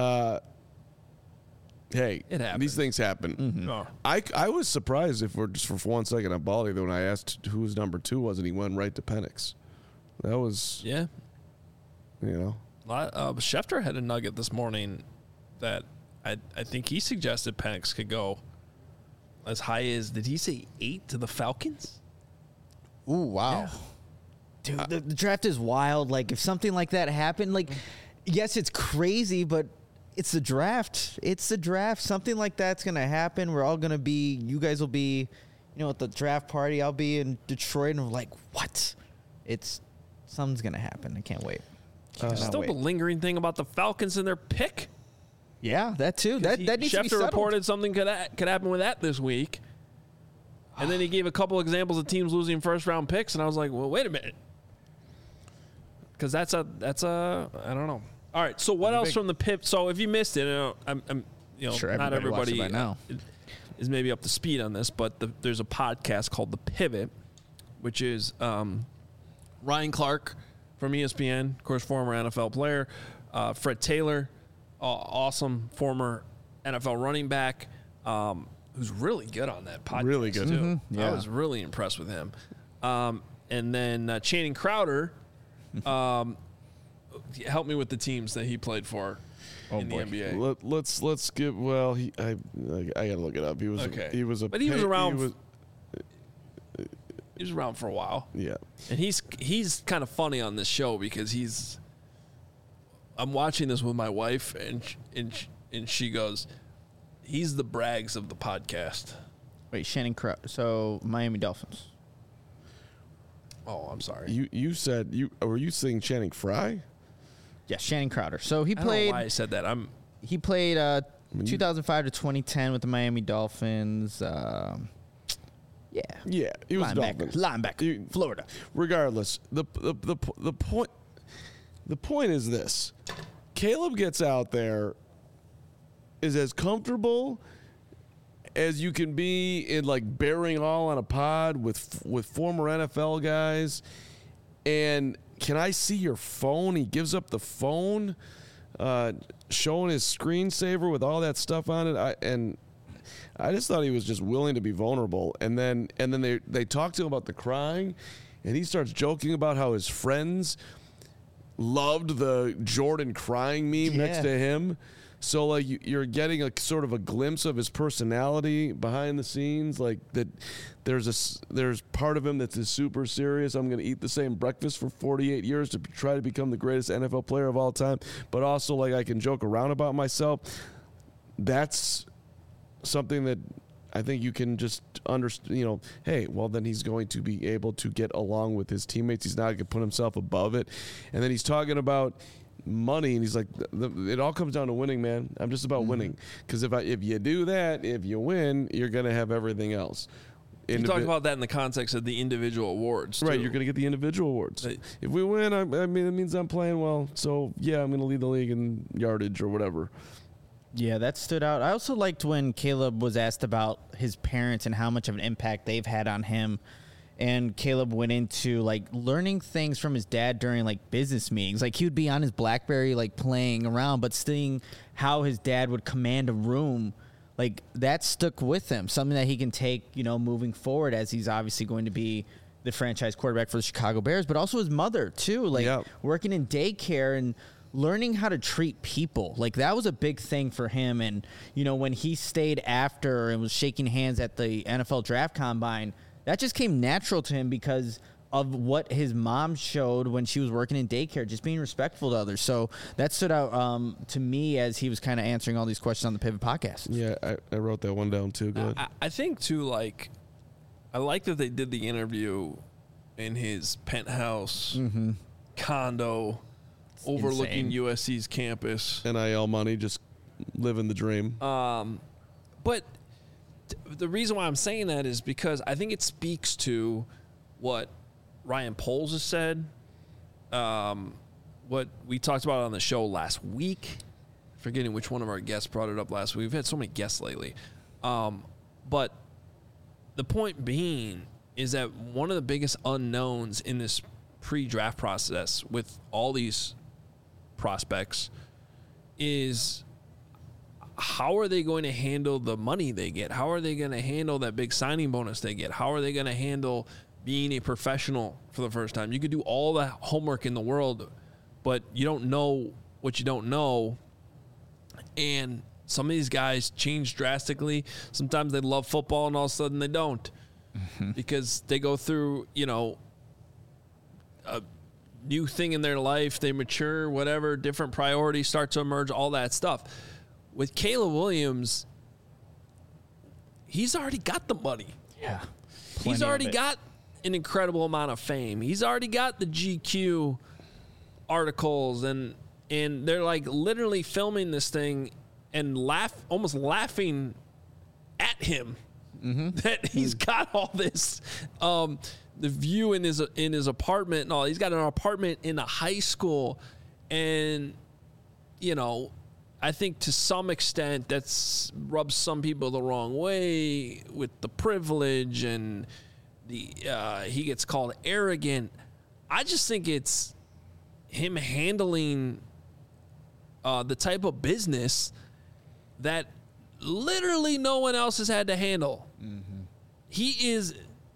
Hey, It happens. these things happen. Oh. I was surprised if we're just for 1 second on Baldy when I asked who his number 2 was, and he went right to Penix. That was, Yeah. you know. Schefter had a nugget this morning that I think he suggested Penix could go as high as, did he say 8 to the Falcons? Ooh, wow. Dude, the draft is wild. Like, if something like that happened, like, yes, it's crazy, but it's the draft. It's the draft. Something like that's going to happen. We're all going to be, you guys will be, you know, at the draft party. I'll be in Detroit, and we're like, what? Something's going to happen. I can't wait. Cannot Still wait. the lingering thing about the Falcons and their pick. Yeah, that too. That needs to be Schefter settled. reported something could happen with that this week. And then he gave a couple examples of teams losing first-round picks, and I was like, well, wait a minute. Because that's a I don't know. All right, so what else from the PIP? So if you missed it, I'm Sure, not everybody watches everybody by now. is maybe up to speed on this, but there's a podcast called The Pivot, which is Ryan Clark from ESPN, of course, former NFL player, Fred Taylor, awesome former NFL running back, who's really good on that podcast. Really good. too. Mm-hmm. Yeah. I was really impressed with him. And then Channing Crowder. Help me with the teams that he played for in boy. the NBA. Let's give. Well, I gotta look it up. He was Okay. he was a But he was around. He was, He was around for a while, yeah. and he's kind of funny on this show because I'm watching this with my wife, and she goes, he's the Braggs of the podcast. Wait, Shannon Crowder. So, Miami Dolphins. Oh, I'm sorry. You said were you saying Channing Frye? Yeah, Shannon Crowder. So, he I don't know played why I said that. He played 2005 to 2010 with the Miami Dolphins. Yeah, he was Linebacker. Florida. Regardless, the point is this: Caleb gets out there, is as comfortable as you can be in like bearing all on a pod with former NFL guys. And can I see your phone? He gives up the phone, showing his screensaver with all that stuff on it. I just thought he was just willing to be vulnerable. And then they talk to him about the crying, and he starts joking about how his friends loved the Jordan crying meme next to him. So like you're getting a sort of a glimpse of his personality behind the scenes, like that. There's part of him that's super serious. I'm going to eat the same breakfast for 48 years to try to become the greatest NFL player of all time. But also like I can joke around about myself. That's something that I think you can just understand, you know, hey, well, then he's going to be able to get along with his teammates. He's not going to put himself above it. And then he's talking about money, and he's like, it all comes down to winning, man. I'm just about winning. Because if you do that, if you win, you're going to have everything else. You talk about that in the context of the individual awards, right? too. You're going to get the individual awards. If we win, I mean, it means I'm playing well. So, yeah, I'm going to lead the league in yardage or whatever. Yeah, that stood out. I also liked when Caleb was asked about his parents and how much of an impact they've had on him. And Caleb went into like learning things from his dad during like business meetings. Like he would be on his BlackBerry, like playing around, but seeing how his dad would command a room, like that stuck with him. Something that he can take, you know, moving forward as he's obviously going to be the franchise quarterback for the Chicago Bears, but also his mother too, like working in daycare and learning how to treat people. Like that was a big thing for him. And, you know, when he stayed after and was shaking hands at the NFL draft combine, that just came natural to him because of what his mom showed when she was working in daycare, just being respectful to others. So that stood out to me as he was kind of answering all these questions on the Pivot podcast. Yeah, I wrote that one down too. Good. I think too, like, I like that they did the interview in his penthouse condo overlooking USC's campus. NIL money, just living the dream. But the reason why I'm saying that is because I think it speaks to what Ryan Poles has said, what we talked about on the show last week. Forgetting which one of our guests brought it up last week. We've had so many guests lately. But the point being is that one of the biggest unknowns in this pre-draft process with all these prospects is how are they going to handle the money they get? How are they going to handle that big signing bonus they get? How are they going to handle being a professional for the first time? You could do all the homework in the world, but you don't know what you don't know. And some of these guys change drastically. Sometimes they love football and all of a sudden they don't because they go through, a new thing in their life. They mature, whatever, different priorities start to emerge, all that stuff. With Caleb Williams, he's already got the money. Yeah. He's already got an incredible amount of fame. He's already got the GQ articles and they're like literally filming this thing and almost laughing at him that he's got all this the view in his apartment and all. He's got an apartment in a high school, and I think to some extent that's rubs some people the wrong way with the privilege and he gets called arrogant. I just think it's him handling the type of business that literally no one else has had to handle. He is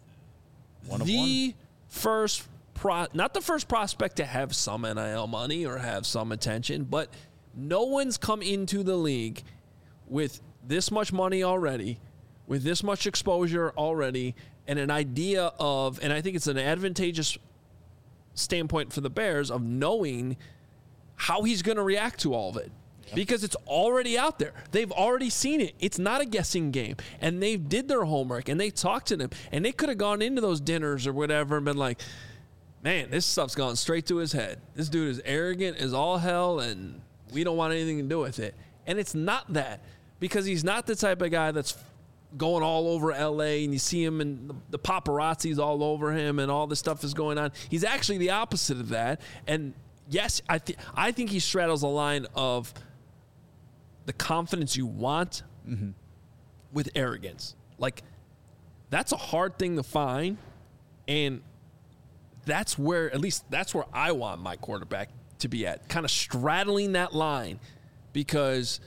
the first not the first prospect to have some NIL money or have some attention, but no one's come into the league with this much money already, with this much exposure already, and an idea of, and I think it's an advantageous standpoint for the Bears of knowing how he's going to react to all of it. Because it's already out there. They've already seen it. It's not a guessing game. And they did their homework, and they talked to them. And they could have gone into those dinners or whatever and been like, man, this stuff's gone straight to his head. This dude is arrogant as all hell, and we don't want anything to do with it. And it's not that, because he's not the type of guy that's going all over L.A. and you see him and the paparazzi's all over him and all this stuff is going on. He's actually the opposite of that. And, yes, I think he straddles a line of the confidence you want with arrogance. Like, that's a hard thing to find, and that's where, at least that's where I want my quarterback to be at, kind of straddling that line, because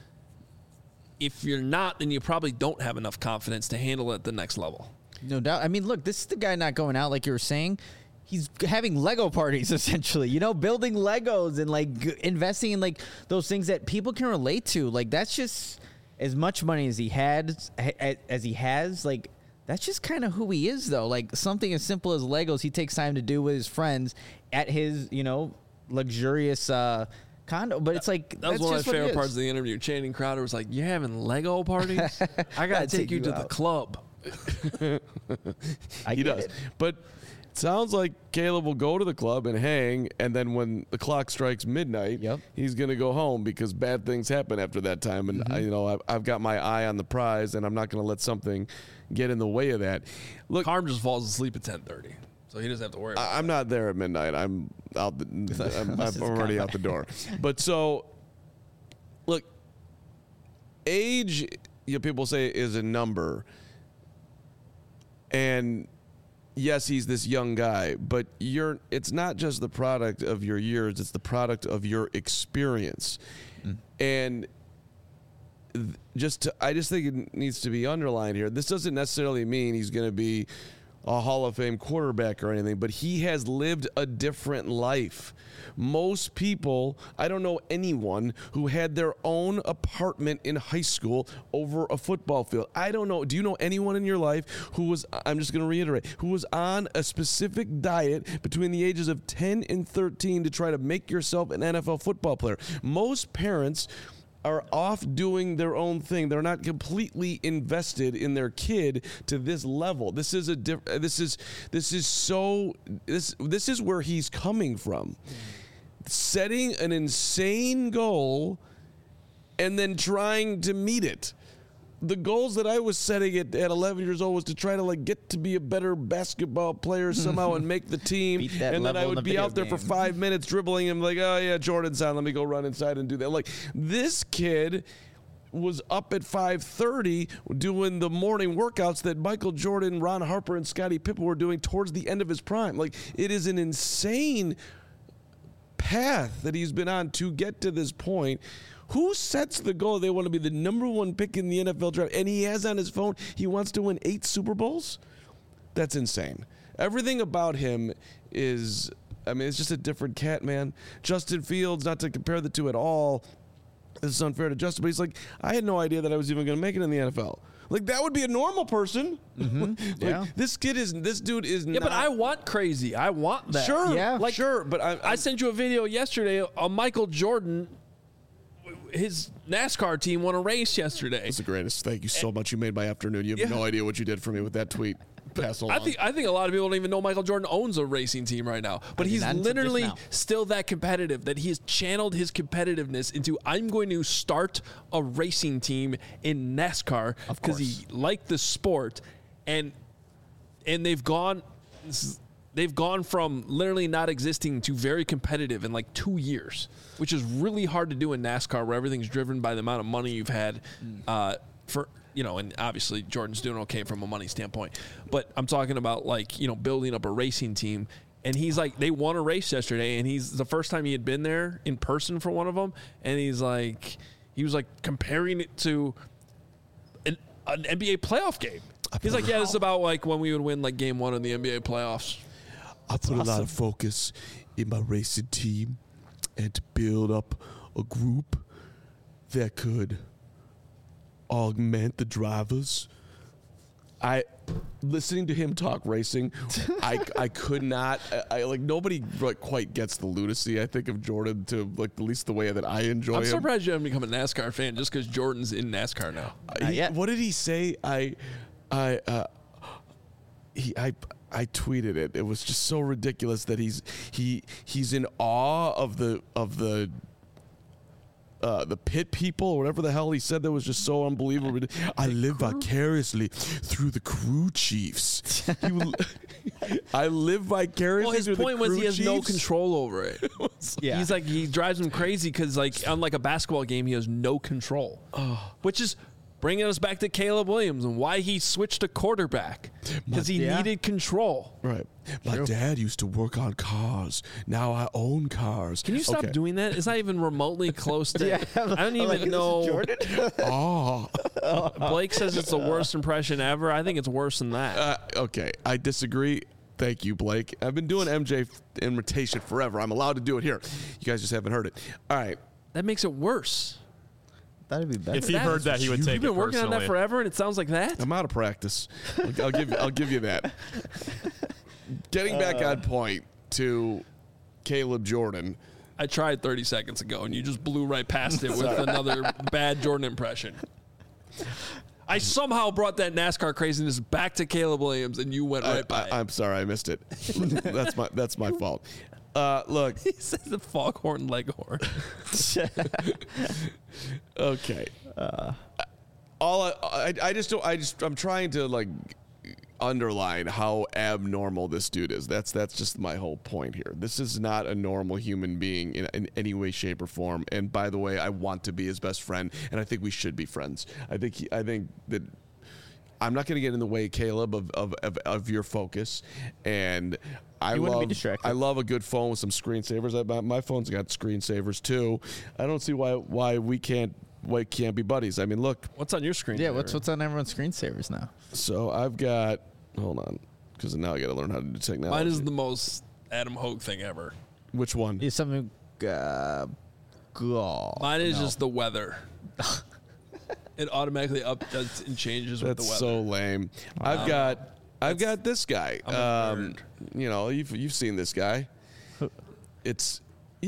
if you're not, then you probably don't have enough confidence to handle it at the next level. No doubt. I mean, look, this is the guy not going out like you were saying. He's having Lego parties, essentially, building Legos and investing in those things that people can relate to. That's just as much money as he has. That's just kind of who he is, though. Something as simple as Legos, he takes time to do with his friends at his, luxurious condo. But it's that was one of my favorite parts of the interview. Channing Crowder was like, "You're having Lego parties? I gotta take you to the club." He does, but. Sounds like Caleb will go to the club and hang, and then when the clock strikes midnight, he's going to go home because bad things happen after that time. And I've got my eye on the prize, and I'm not going to let something get in the way of that. Look, Carm just falls asleep at 10:30, so he doesn't have to worry about it. I'm not there at midnight. I'm out. I'm already out the door. But so, look, age, people say, is a number, and yes, he's this young guy, but it's not just the product of your years, it's the product of your experience. And I just think it needs to be underlined here. This doesn't necessarily mean he's going to be a Hall of Fame quarterback or anything, but he has lived a different life. Most people, I don't know anyone who had their own apartment in high school over a football field. I don't know. Do you know anyone in your life who was, I'm just going to reiterate, who was on a specific diet between the ages of 10 and 13 to try to make yourself an NFL football player? Most parents are off doing their own thing. They're not completely invested in their kid to this level. This is where he's coming from. Setting an insane goal and then trying to meet it. The goals that I was setting at 11 years old was to try to get to be a better basketball player somehow and make the team. And then I would be out there for 5 minutes dribbling him like, oh yeah, Jordan's on. Let me go run inside and do that. Like, this kid was up at 5:30 doing the morning workouts that Michael Jordan, Ron Harper, and Scottie Pippen were doing towards the end of his prime. Like, it is an insane path that he's been on to get to this point. Who sets the goal they want to be the number one pick in the NFL draft? And he has on his phone, he wants to win 8 Super Bowls? That's insane. Everything about him is, I mean, it's just a different cat, man. Justin Fields, not to compare the two at all, this is unfair to Justin, but he's like, I had no idea that I was even going to make it in the NFL. Like, that would be a normal person. Mm-hmm. Yeah. This dude is not. Yeah, but I want crazy. I want that. Sure. Yeah. Like, sure. But I sent you a video yesterday of Michael Jordan. His NASCAR team won a race yesterday. That's the greatest. Thank you so much. You made my afternoon. You have no idea what you did for me with that tweet. Pass along. I think a lot of people don't even know Michael Jordan owns a racing team right now. But he's literally still that competitive, that he has channeled his competitiveness into, I'm going to start a racing team in NASCAR because he liked the sport. And they've gone from literally not existing to very competitive in like 2 years, which is really hard to do in NASCAR, where everything's driven by the amount of money you've had and obviously Jordan's doing okay from a money standpoint. But I'm talking about building up a racing team. And he's like, they won a race yesterday, and he's the first time he had been there in person for one of them. And he was like comparing it to an NBA playoff game. He's like, yeah, this is about like when we would win like game 1 in the NBA playoffs. I put a lot of focus in my racing team and to build up a group that could augment the drivers. Listening to him talk racing, I could not. Nobody quite gets the lunacy, I think, of Jordan to at least the way that I enjoy him. I'm surprised you haven't become a NASCAR fan just because Jordan's in NASCAR now. What did he say? I tweeted it. It was just so ridiculous that he's in awe of the pit people or whatever the hell he said. That was just so unbelievable. I live vicariously through the crew chiefs. I live vicariously through the crew chiefs. Well, his point was he has no control over it. Yeah. He's like, he drives him crazy because unlike a basketball game, he has no control. Which is bringing us back to Caleb Williams and why he switched to quarterback, because he needed control. Right. My dad used to work on cars. Now I own cars. Can you stop doing that? It's not even remotely close to. I don't even know. Jordan? Blake says it's the worst impression ever. I think it's worse than that. Okay, I disagree. Thank you, Blake. I've been doing MJ imitation forever. I'm allowed to do it here. You guys just haven't heard it. All right. That makes it worse. That'd be better. If he heard that, he would take it. You've been working on that forever, and it sounds like that. I'm out of practice. I'll give you that. Getting back on point to Caleb Jordan. I tried 30 seconds ago, and you just blew right past it with another bad Jordan impression. I somehow brought that NASCAR craziness back to Caleb Williams, and you went right by it. I'm sorry, I missed it. That's my fault. Look, he says the foghorn leghorn. Okay. I'm trying to underline how abnormal this dude is. That's just my whole point here. This is not a normal human being in any way, shape, or form. And by the way, I want to be his best friend, and I think we should be friends. I think that I'm not going to get in the way, Caleb, of your focus. And I love a good phone with some screensavers. My phone's got screensavers too. I don't see why we can't be buddies. I mean, look. What's on your screen? Yeah, what's on everyone's screensavers now? So I've got. Hold on. because now I got to learn how to do technology. Mine is the most Adam Hogue thing ever. Which one? Is something. Mine is just the weather. It automatically updates and changes with the That's weather. so lame. I've got this guy. I'm a nerd. You know, you've seen this guy. It's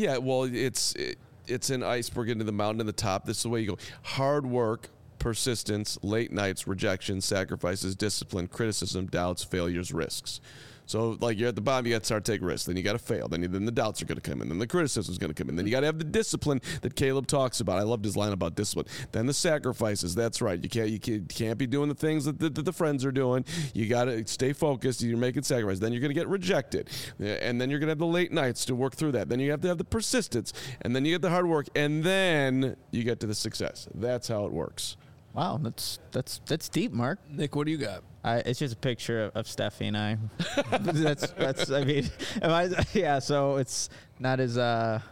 an iceberg into the mountain in the top. This is the way you go. Hard work, persistence, late nights, rejection, sacrifices, discipline, criticism, doubts, failures, risks. So, like, you're at the bottom, you got to start taking risks. Then you got to fail. Then the doubts are going to come in. Then the criticism is going to come in. Then you got to have the discipline that Caleb talks about. I loved his line about discipline. Then the sacrifices. That's right. You can't be doing the things that the friends are doing. You got to stay focused. You're making sacrifices. Then you're going to get rejected. And then you're going to have the late nights to work through that. Then you have to have the persistence. And then you get the hard work. And then you get to the success. That's how it works. Wow, that's deep, Mark. Nick, what do you got? It's just a picture of Steffi and I. that's. I mean, yeah. So it's not as.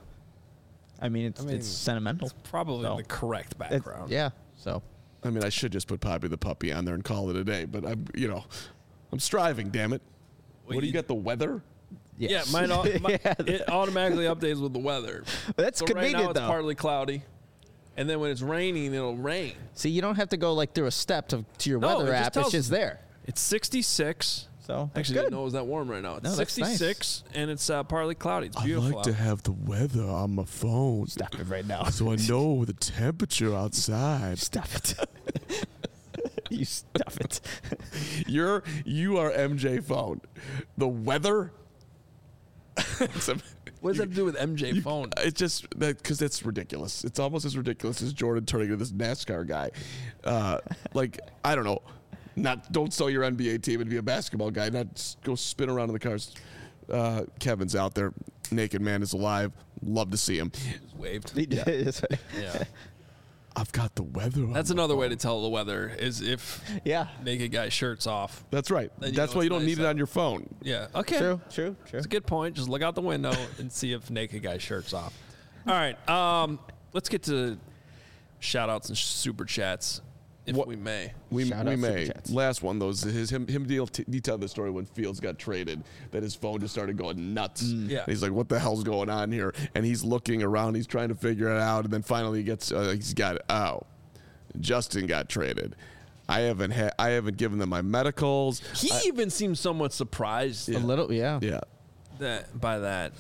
It's sentimental. It's probably So, the correct background. Yeah. So. I mean, I should just put Poppy the puppy on there and call it a day. But I'm striving. Damn it. Well, What do you got? The weather? Yes. Yeah, it automatically updates with the weather. That's So right convenient now it's though. partly cloudy, and then when it's raining, it'll rain. See, you don't have to go like through a step to your No, weather it just app. It's tells just you. there. It's 66. So that's Actually, good. didn't know it was that warm right now. It's No, that's 66, and it's partly cloudy. It's I beautiful. like to out. have the weather on my phone. Stop it right now. So I know the temperature outside. Stop it. You stop it. You are MJ phone. The weather. What does that have to do with MJ phone? It's just that because it's ridiculous. It's almost as ridiculous as Jordan turning into this NASCAR guy. Like, I don't know. Don't sell your NBA team and be a basketball guy. Not just go spin around in the cars. Kevin's out there. Naked man is alive. Love to see him. Just waved. Yeah. Yeah. I've got the weather on That's my another way phone. to tell the weather is if Yeah. naked guy shirt's off. That's right. Then you That's know why it's you don't nice need it out. on your phone. Yeah. Okay. True. That's a good point. Just look out the window and see if naked guy shirt's off. All right. Let's get to shout outs and super chats if we may. We Shout out may. Super Chats. Last one, though, is him detailed the story when Fields got traded, that his phone just started going nuts. Yeah. And he's like, what the hell's going on here? And he's looking around. He's trying to figure it out. And then finally he's got it. Oh, Justin got traded. I haven't given them my medicals. He even seems somewhat surprised A little, yeah. Yeah. by that.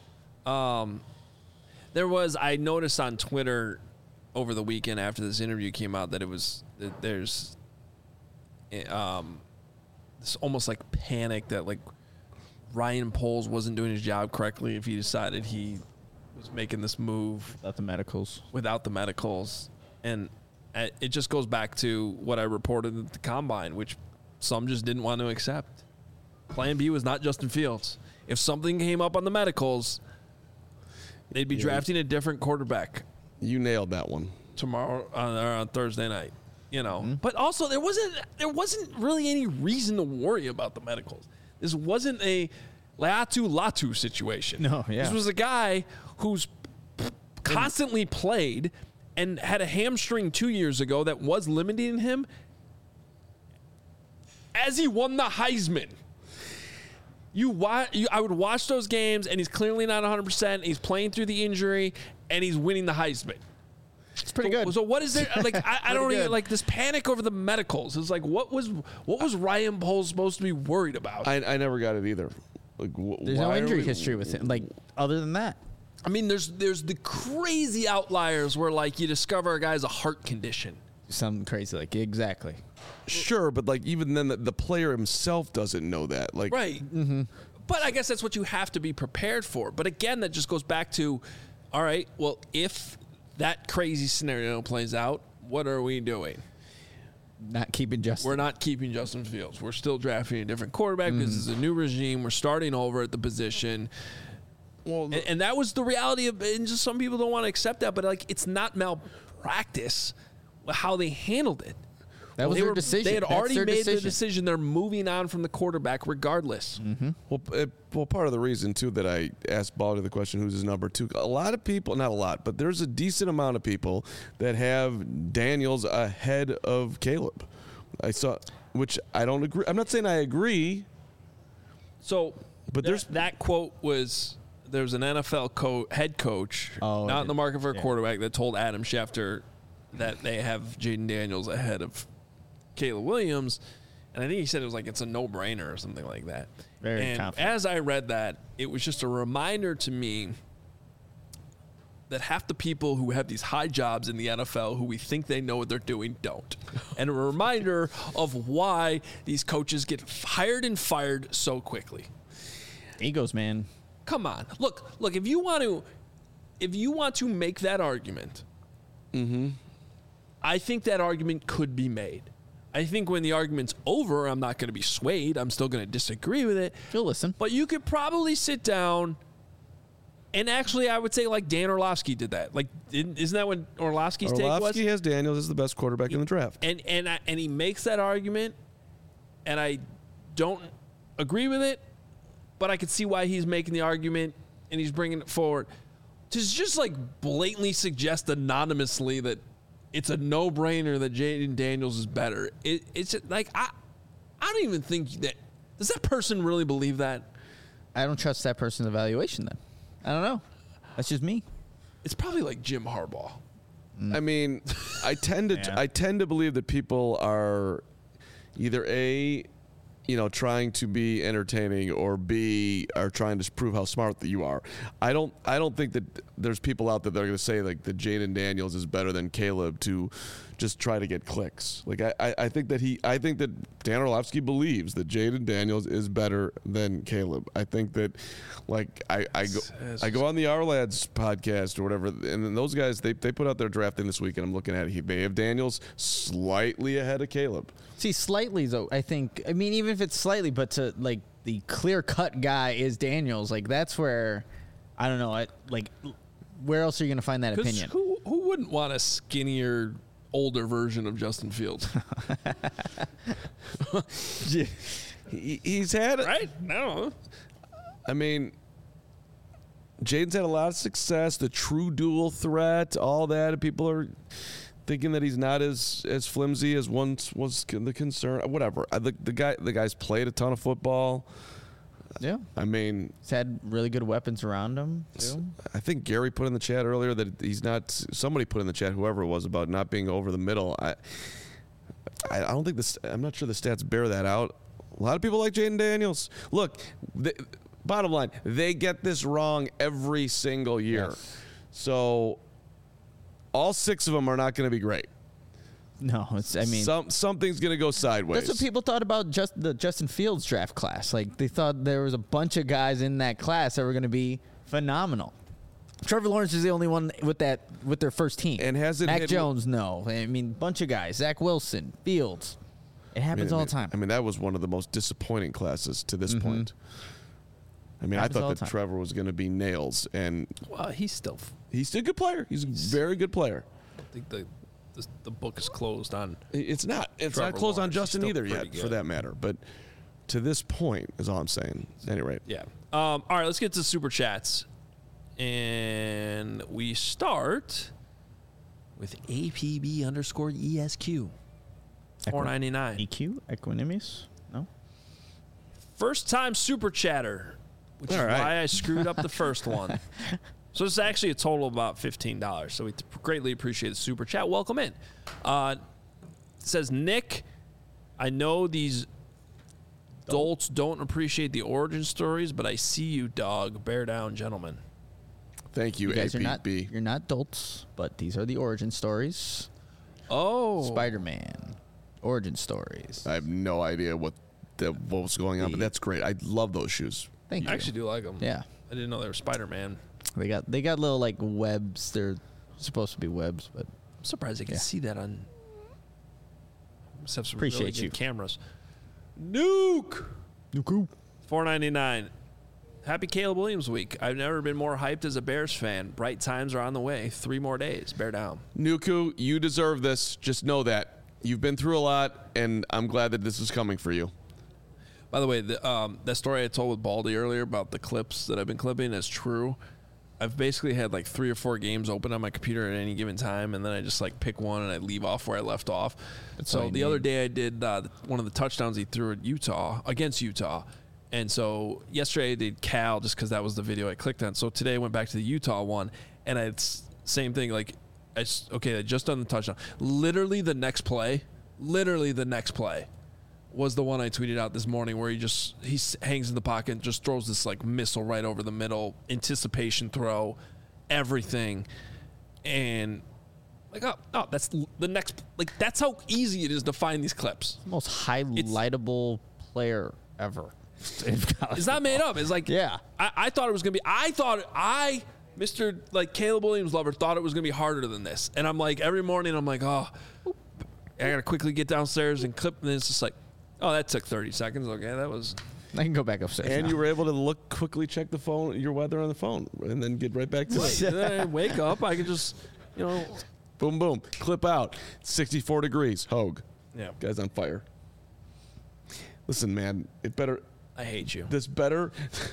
I noticed on Twitter over the weekend after this interview came out that there's this almost like panic that like Ryan Poles wasn't doing his job correctly if he decided he was making this move Without the medicals. without the medicals. And it just goes back to what I reported at the Combine, which some just didn't want to accept. Plan B was not Justin Fields. If something came up on the medicals, they'd be drafting a different quarterback You nailed that one. tomorrow on Thursday night. You know, but also there wasn't really any reason to worry about the medicals. This wasn't a Latu situation. No, yeah. This was a guy who's constantly played and had a hamstring 2 years ago that was limiting him as he won the Heisman. I would watch those games, and he's clearly not 100%. He's playing through the injury, and he's winning the Heisman. It's pretty good. So what is there? Like I don't good. even like this panic over the medicals. It's like what was Ryan Poles supposed to be worried about? I never got it either. Like, There's no injury history with him. Like, other than that. I mean, there's the crazy outliers where like you discover a guy has a heart condition. Something crazy. Like, exactly. Sure, but like even then, the player himself doesn't know that. Like, Right. Mm-hmm. But I guess that's what you have to be prepared for. But again, that just goes back to, all right, well, if that crazy scenario plays out, what are we doing? Not keeping Justin. We're not keeping Justin Fields. We're still drafting a different quarterback because it's a new regime. We're starting over at the position. Well, And that was the reality of, and just some people don't want to accept that, but like it's not malpractice how they handled it. That was their decision. They had That's already their made the decision. decision. They're moving on from the quarterback regardless. Well, part of the reason too that I asked Baldy the question, who's his number two? A lot of people, not a lot, but there's a decent amount of people that have Daniels ahead of Caleb. I saw, which I don't agree. I'm not saying I agree, So, But there's- that quote was there was an NFL head coach not in the market for a quarterback that told Adam Schefter that they have Jaden Daniels ahead of Caleb Williams, and I think he said it was like it's a no-brainer or something like that. Very confident. As I read that, it was just a reminder to me that half the people who have these high jobs in the NFL who we think they know what they're doing don't. And a reminder of why these coaches get hired and fired so quickly. Egos, man. Come on. Look, if you want to make that argument, I think that argument could be made. I think when the argument's over, I'm not going to be swayed. I'm still going to disagree with it. You'll listen. But you could probably sit down and actually, I would say like Dan Orlovsky did that. Like, isn't that what Orlovsky's take was? Orlovsky has Daniels as the best quarterback in the draft. And he makes that argument, and I don't agree with it, but I could see why he's making the argument and he's bringing it forward. To just like blatantly suggest anonymously that it's a no-brainer that Jaden Daniels is better. It's just like I don't even think that. Does that person really believe that? I don't trust that person's evaluation then. I don't know. That's just me. It's probably like Jim Harbaugh. I mean, I tend to believe that people are either trying to be entertaining, or B, are trying to prove how smart that you are. I don't think that there's people out there that are going to say like that Jaden Daniels is better than Caleb to just try to get clicks. Like I think that Dan Orlovsky believes that Jaden Daniels is better than Caleb. I think that like I go on the Our Lads podcast or whatever, and then those guys they put out their draft in this week, and I'm looking at it. They have Daniels slightly ahead of Caleb. See, slightly though, I think. I mean, even if it's slightly, but to like the clear-cut guy is Daniels. Like that's where I don't know. Where else are you going to find that opinion? Who wouldn't want a skinnier, older version of Justin Fields? He's had it. Right? No. I mean, Jaden's had a lot of success. The true dual threat, all that. People are thinking that he's not as flimsy as once was the concern. Whatever. The guy's played a ton of football. Yeah. I mean, he's had really good weapons around him, too. I think Gary put in the chat earlier that he's not. Somebody put in the chat, whoever it was, about not being over the middle. I don't think this. I'm not sure the stats bear that out. A lot of people like Jaden Daniels. Look, bottom line, they get this wrong every single year. Yes. So all 6 of them are not going to be great. No, something's going to go sideways. That's what people thought about the Justin Fields draft class. Like they thought there was a bunch of guys in that class that were going to be phenomenal. Trevor Lawrence is the only one with their first team. And hasn't Mac Jones? No, I mean bunch of guys. Zach Wilson, Fields. It happens all the time. I mean, that was one of the most disappointing classes to this point. I mean, I thought that Trevor was going to be nails, and Well, he's a good player. He's a very good player. I think the book is closed on. It's not Trevor closed on Lawrence. Justin He's either still yet, pretty for good. that matter. But to this point is all I'm saying. At any rate, Yeah. All right, let's get to super chats, and we start with APB_ESQ. $4.99. EQ? Equanimous? No? First time super chatter, which is All right. why I screwed up the first one. So it's actually a total of about $15. So we greatly appreciate the super chat. Welcome in. It says, Nick, I know these dolts don't appreciate the origin stories, but I see you, dog. Bear down, gentlemen. thank you, You guys APB. you're not dolts, but these are the origin stories. Oh. Spider-Man. Origin stories. I have no idea what was going on, but that's great. I love those shoes. Thank you. I actually do like them. Yeah. I didn't know they were Spider-Man. They got little like webs. They're supposed to be webs, but I'm surprised I can see that on. Must have some Appreciate really good you. cameras. Nuke. $4.99. Happy Caleb Williams week. I've never been more hyped as a Bears fan. Bright times are on the way. 3 more days. Bear down. Nuku, you deserve this. Just know that. You've been through a lot, and I'm glad that this is coming for you. By the way, that story I told with Baldy earlier about the clips that I've been clipping is true. I've basically had like 3 or 4 games open on my computer at any given time, and then I just like pick one and I leave off where I left off. all So you the need. other day I did one of the touchdowns he threw at Utah, against Utah, And so yesterday I did Cal just because that was the video I clicked on. So today I went back to the Utah one, and it's same thing. Like, I just done the touchdown. Literally the next play was the one I tweeted out this morning where he hangs in the pocket and just throws this like missile right over the middle, anticipation throw, everything. And like, oh, that's the next, like, that's how easy it is to find these clips. Most highlightable player ever. It's not made up. It's like, yeah. I thought it was going to be, Mr. like Caleb Williams lover thought it was going to be harder than this. And I'm like, every morning I'm like, oh, I got to quickly get downstairs and clip. And it's just like, oh, that took 30 seconds. Okay, that was. I can go back upstairs. And now. you were able to quickly check the phone, your weather on the phone, and then get right back to it. And then I wake up, I can just, Boom, boom. Clip out. 64 degrees. Hogue. Yeah. Guy's on fire. Listen, man, it better. I hate you. This better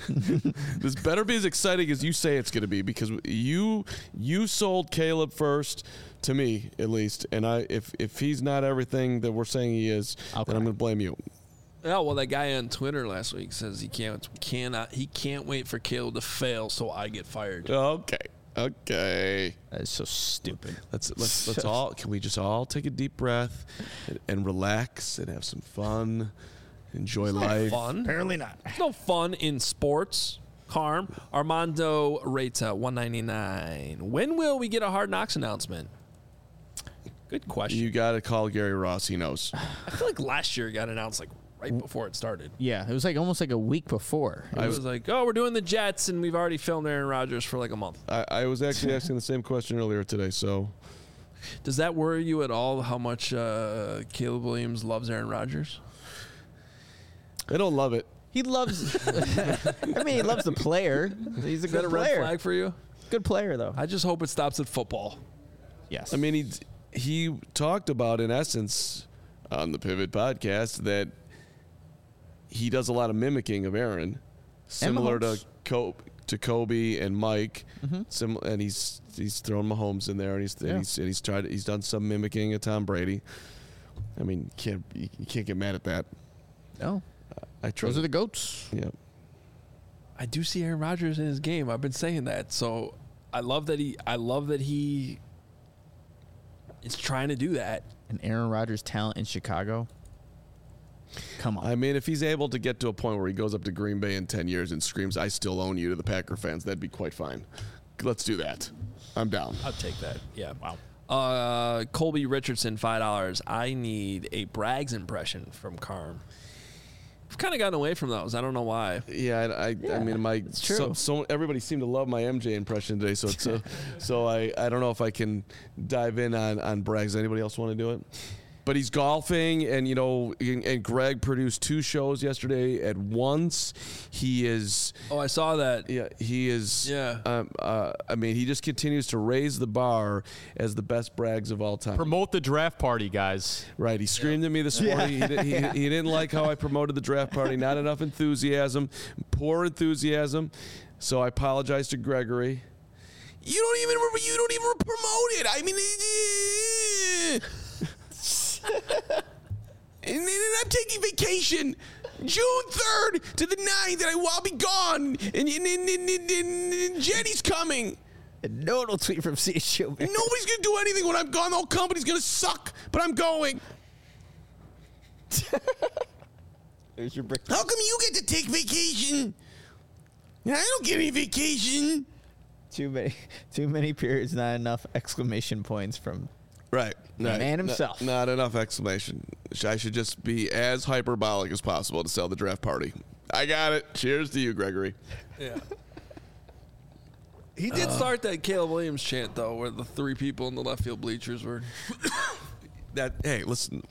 be as exciting as you say it's going to be, because you sold Caleb first, to me at least, and if he's not everything that we're saying he is, then I'm going to blame you. Yeah, well, that guy on Twitter last week says he can't wait for Caleb to fail so I get fired. Okay. That's so stupid. Let's all, can we just all take a deep breath and relax and have some fun, enjoy life. Fun? Apparently not. There's no fun in sports. Carm. Armando Reta, 199. When will we get a Hard Knocks announcement? Good question. You got to call Gary Ross. He knows. I feel like last year it got announced like right before it started. Yeah, it was like almost like a week before. It was like, oh, we're doing the Jets, and we've already filmed Aaron Rodgers for like a month. I was actually asking the same question earlier today, so. Does that worry you at all, how much Caleb Williams loves Aaron Rodgers? I don't love it. He loves. I mean, he loves the player. He's a Is that good a red player. flag for you? Good player, though. I just hope it stops at football. Yes. I mean, he talked about, in essence, on the Pivot podcast, that he does a lot of mimicking of Aaron, similar to Kobe and Mike. Mm-hmm. And he's thrown Mahomes in there, and he's done some mimicking of Tom Brady. I mean, you can't get mad at that. No. Those are the GOATs. Yeah. I do see Aaron Rodgers in his game. I've been saying that. So I love that he is trying to do that. And Aaron Rodgers' talent in Chicago. Come on. I mean, if he's able to get to a point where he goes up to Green Bay in 10 years and screams, "I still own you" to the Packer fans, that'd be quite fine. Let's do that. I'm down. I'll take that. Yeah. Wow. Colby Richardson, $5. I need a Braggs impression from Carm. I've kind of gotten away from those. I don't know why. Yeah, I mean, so everybody seemed to love my MJ impression today. So so I don't know if I can dive in on Braggs. Anybody else want to do it? But he's golfing, and and Greg produced 2 shows yesterday at once. He is. Oh, I saw that. Yeah, he is. Yeah. I mean, he just continues to raise the bar as the best Braggs of all time. Promote the draft party, guys. Right. He screamed at me this morning. Yeah. He didn't like how I promoted the draft party. Not enough enthusiasm. Poor enthusiasm. So I apologize to Gregory. You don't even promote it. I mean. And then I'm taking vacation June 3rd to the 9th, and I'll be gone. And Jenny's coming. No one will tweet from CSU. Nobody's going to do anything when I'm gone. The whole company's going to suck, but I'm going. There's your brick. How come you get to take vacation? And I don't get any vacation. Too many periods, not enough exclamation points from Right. the man himself. Not enough exclamation. I should just be as hyperbolic as possible to sell the draft party. I got it. Cheers to you, Gregory. Yeah. He did start that Caleb Williams chant, though, where the 3 people in the left field bleachers were. Hey, listen.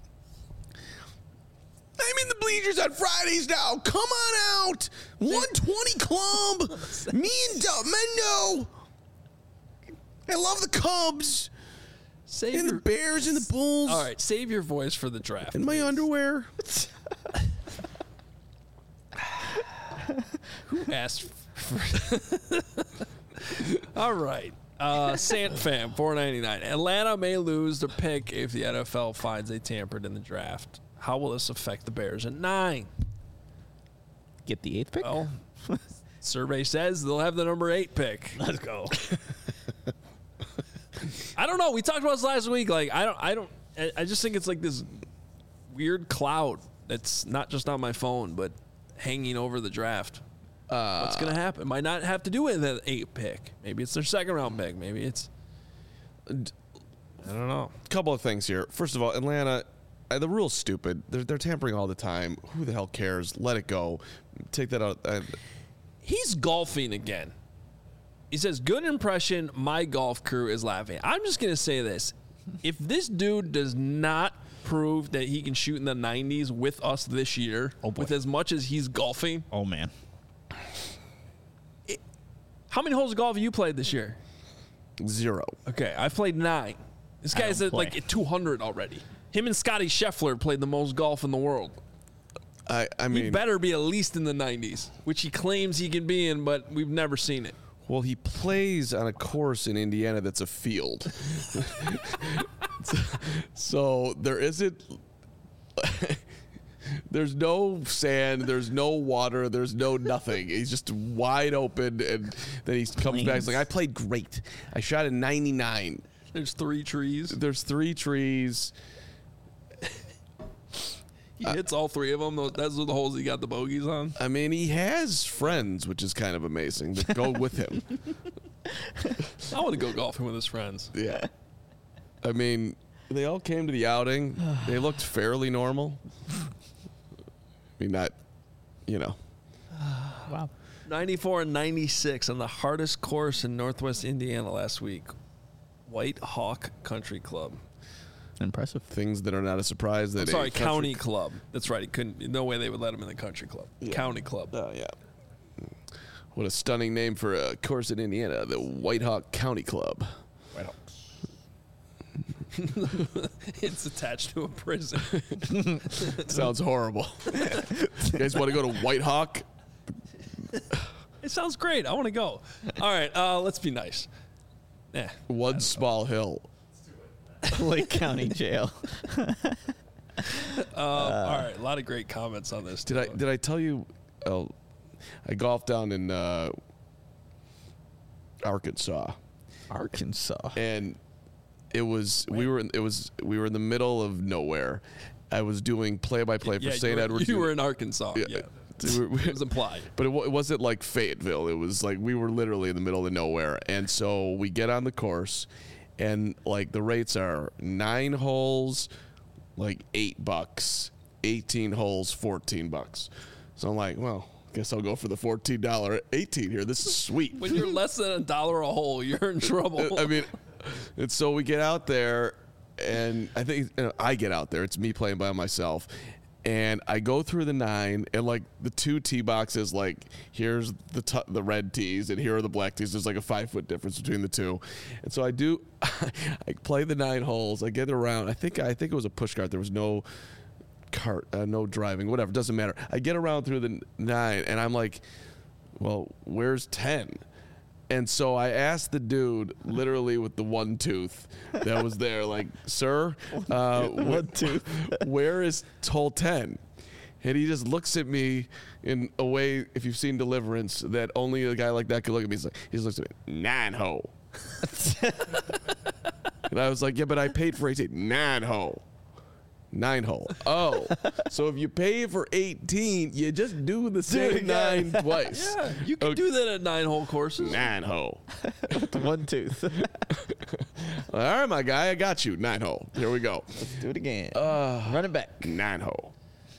I'm in the bleachers on Fridays now. Come on out. 120 Club. Me and Mendo. I love the Cubs. And the Bears and the Bulls. All right, save your voice for the draft. And my underwear. Who asked for All right. Sant Fam, $4.99. Atlanta may lose their pick if the NFL finds they tampered in the draft. How will this affect the Bears at 9? get the 8th pick? Well, survey says they'll have the number 8 pick. Let's go. I don't know. We talked about this last week. Like, I just think it's like this weird cloud that's not just on my phone, but hanging over the draft. What's going to happen? Might not have to do with an 8 pick. Maybe it's their 2nd round pick. Maybe it's, I don't know. Couple of things here. First of all, Atlanta, the rule's stupid. They're tampering all the time. Who the hell cares? Let it go. Take that out. He's golfing again. He says, good impression, my golf crew is laughing. I'm just going to say this. If this dude does not prove that he can shoot in the 90s with us this year, with as much as he's golfing. Oh, man. How many holes of golf have you played this year? 0. Okay, I've played 9. This guy's at like 200 already. Him and Scotty Scheffler played the most golf in the world. I mean, He better be at least in the 90s, which he claims he can be in, but we've never seen it. well, he plays on a course in Indiana that's a field. So there isn't. There's no sand. There's no water. There's no nothing. He's just wide open, and then he comes back. He's like, I played great. I shot a 99. There's 3 trees. There's 3 trees. He hits all 3 of them. Those are the holes he got the bogeys on. I mean, he has friends, which is kind of amazing, that go with him. I want to go golfing with his friends. Yeah. I mean, they all came to the outing. They looked fairly normal. I mean, not, Wow. 94 and 96 on the hardest course in Northwest Indiana last week. White Hawk Country Club. Impressive. Things that are not a surprise. That Sorry, County Club. That's right. He couldn't. No way they would let him in the country club. Yeah. County Club. Oh, yeah. What a stunning name for a course in Indiana, the White Hawk County Club. White Hawks. It's attached to a prison. Sounds horrible. You guys want to go to White Hawk? It sounds great. I want to go. All right, let's be nice. One small hill. Lake County Jail. All right, a lot of great comments on this. Did I tell you? I golfed down in Arkansas. Arkansas. And we were in the middle of nowhere. I was doing play-by-play for St. Edwards. You were in Arkansas. Yeah. It was implied. But it wasn't like Fayetteville. It was like we were literally in the middle of nowhere. And so we get on the course, and like the rates are 9 holes, like $8, 18 holes, $14. So I'm like, well, I guess I'll go for the $14 18 here. This is sweet. When you're less than $1 a hole, you're in trouble. I mean, and so we get out there, and I think I get out there. It's me playing by myself. And I go through the 9, and like the 2 tee boxes, like here's the red tees, and here are the black tees. There's like a 5-foot difference between the 2, and so I play the 9 holes. I get around. I think it was a push cart. There was no cart, no driving, whatever. Doesn't matter. I get around through the 9, and I'm like, well, where's 10? And so I asked the dude, literally with the 1 tooth that was there, like, sir, One tooth. where is hole 10? And he just looks at me in a way, if you've seen Deliverance, that only a guy like that could look at me. He just looks at me, 9 hole. And I was like, yeah, but I paid for 18. 9 hole. 9 hole. Oh, so if you pay for 18, you just do the same 9 twice. Yeah, you can do that at 9-hole courses. 9 hole. 1 tooth. All right, my guy, I got you. 9 hole. Here we go. Let's do it again. Run it back. 9 hole.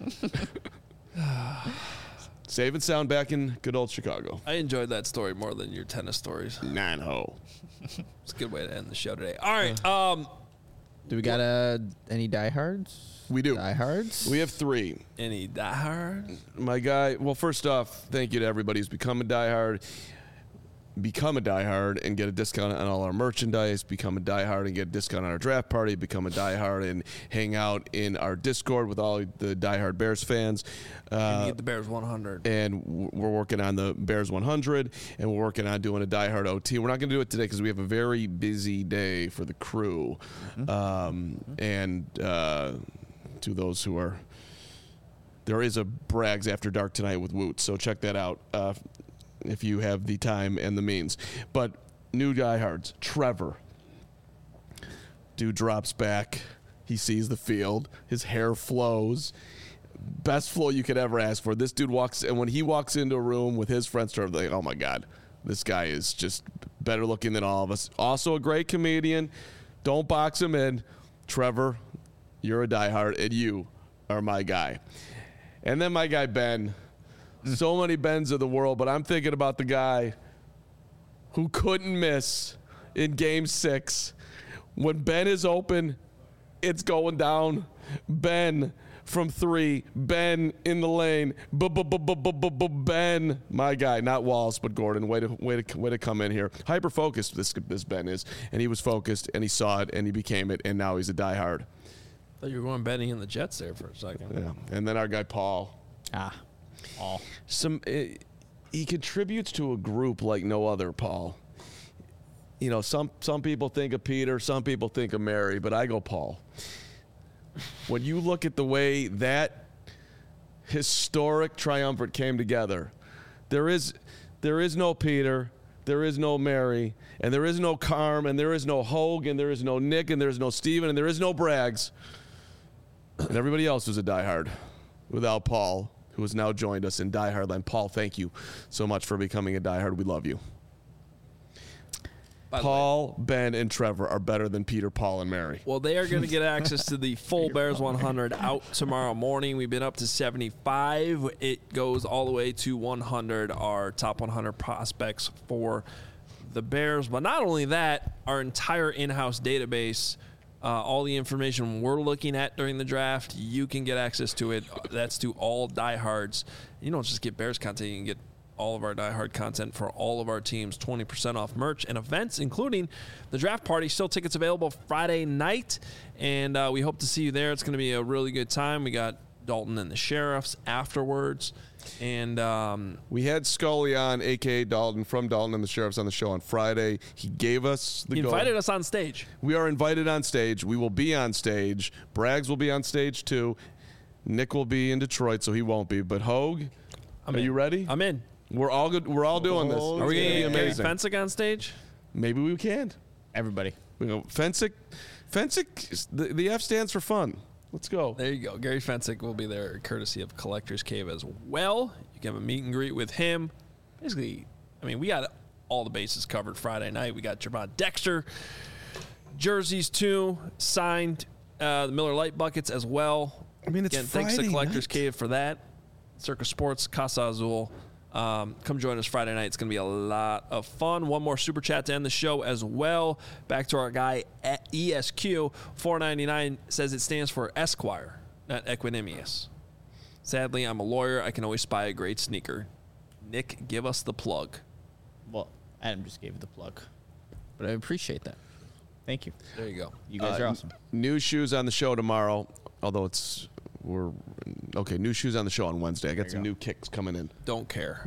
Save and sound back in good old Chicago. I enjoyed that story more than your tennis stories. 9 hole. It's a good way to end the show today. All right. Do we got any diehards? We do. Diehards? We have 3. Any diehard? My guy, well, first off, thank you to everybody who's become a diehard. Become a diehard and get a discount on all our merchandise. Become a diehard and get a discount on our draft party. Become a diehard and hang out in our Discord with all the diehard Bears fans. And get the Bears 100. And we're working on the Bears 100, and we're working on doing a diehard OT. We're not going to do it today because we have a very busy day for the crew. And to those who are there is a Brags After Dark tonight with Woot, so check that out if you have the time and the means. But new diehards, Trevor. Dude drops back. He sees the field. His hair flows. Best flow you could ever ask for. This dude walks, and when he walks into a room with his friends, they're like, oh my God, this guy is just better looking than all of us. Also a great comedian. Don't box him in. Trevor, you're a diehard, and you are my guy. And then my guy, Ben. So many Bens of the world, but I'm thinking about the guy who couldn't miss in Game 6. When Ben is open, it's going down. Ben from 3. Ben in the lane. Ben, my guy, not Wallace, but Gordon. Way to come in here. Hyper focused. This Ben is, and he was focused, and he saw it, and he became it, and now he's a diehard. I thought you were going Benny and the Jets there for a second. Yeah, and then our guy Paul. Paul. He contributes to a group like no other. Paul. You know, some people think of Peter, some people think of Mary, but I go Paul. When you look at the way that historic triumvirate came together, there is no Peter, there is no Mary, and there is no Carm, and there is no Hogue, and there is no Nick, and there is no Steven, and there is no Braggs. And everybody else was a diehard without Paul, who has now joined us in Diehard Land. Paul, thank you so much for becoming a diehard. We love you. Paul, Ben, and Trevor are better than Peter, Paul, and Mary. Well, they are going to get access to the full Bears 100 out tomorrow morning. We've been up to 75. It goes all the way to 100, our top 100 prospects for the Bears. But not only that, our entire in-house database, all the information we're looking at during the draft, you can get access to it. That's to all diehards. You don't just get Bears content, you can get all of our diehard content for all of our teams, 20% off merch and events, including the draft party. Still tickets available Friday night, and we hope to see you there. It's going to be a really good time. We got Dalton and the Sheriffs afterwards, and we had Scully on, a.k.a. Dalton, from Dalton and the Sheriffs, on the show on Friday. He gave us the He invited us on stage. We are invited on stage. We will be on stage. Braggs will be on stage, too. Nick will be in Detroit, so he won't be. But Hogue, are you ready? I'm in. We're all good. We're all doing this. Are we going to get Gary amazing. Fensick on stage? Maybe we can. Everybody. We go Fensick. The F stands for fun. Let's go. There you go. Gary Fensick will be there, courtesy of Collector's Cave as well. You can have a meet and greet with him. Basically, I mean, we got all the bases covered Friday night. We got Javon Dexter jerseys too, signed. The Miller Lite buckets as well. I mean, it's again, thanks to Friday Collector's night. Cave for that. Circus Sports, Casa Azul. Come join us Friday night. It's going to be a lot of fun. One more super chat to end the show as well. Back to our guy at ESQ. $4.99 says it stands for Esquire, not Equanimous. Sadly, I'm a lawyer. I can always spy a great sneaker. Nick, give us the plug. Well, Adam just gave you the plug, but I appreciate that. Thank you. There you go. You guys are awesome. New shoes on the show tomorrow, although new shoes on the show on Wednesday. I got some new kicks coming in. Don't care.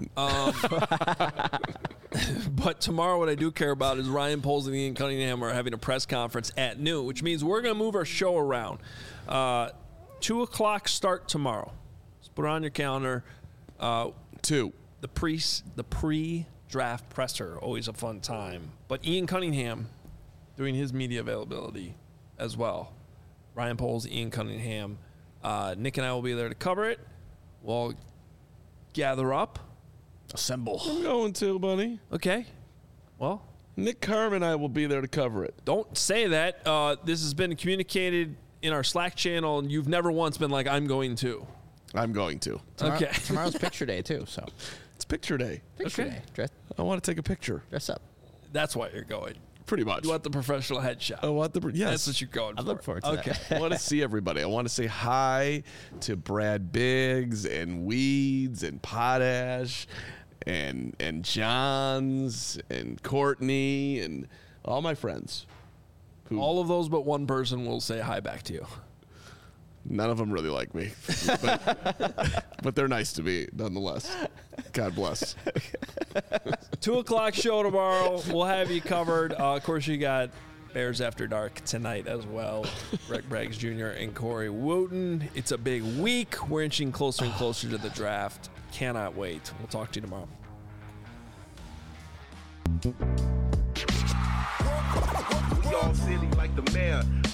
But tomorrow what I do care about is Ryan Poles and Ian Cunningham are having a press conference at noon, which means we're going to move our show around. 2 o'clock start tomorrow. Let's put it on your calendar. 2. The pre-draft presser, always a fun time. But Ian Cunningham doing his media availability as well. Ryan Poles, Ian Cunningham. Nick and I will be there to cover it. We'll gather up. Assemble. I'm going to, buddy. Okay. Well, Nick Carm and I will be there to cover it. don't say that. This has been communicated in our Slack channel, and you've never once been like, I'm going to. I'm going to. Okay. Tomorrow's picture day too, so It's picture day. picture Okay. day. I want to take a picture. Dress up. That's why you're going. Pretty much. You want the professional headshot. I want yes. That's what you're going for. I look forward to Okay. that. I want to see everybody. I want to say hi to Brad Biggs and Weeds and Potash and Johns and Courtney and all my friends. All of those but one person will say hi back to you. None of them really like me, but they're nice to me nonetheless. God bless. 2 o'clock show tomorrow. We'll have you covered. Of course, you got Bears After Dark tonight as well. Rick Braggs Jr. and Corey Wooten. It's a big week. We're inching closer and closer to the draft. Cannot wait. We'll talk to you tomorrow. We all silly like the mayor.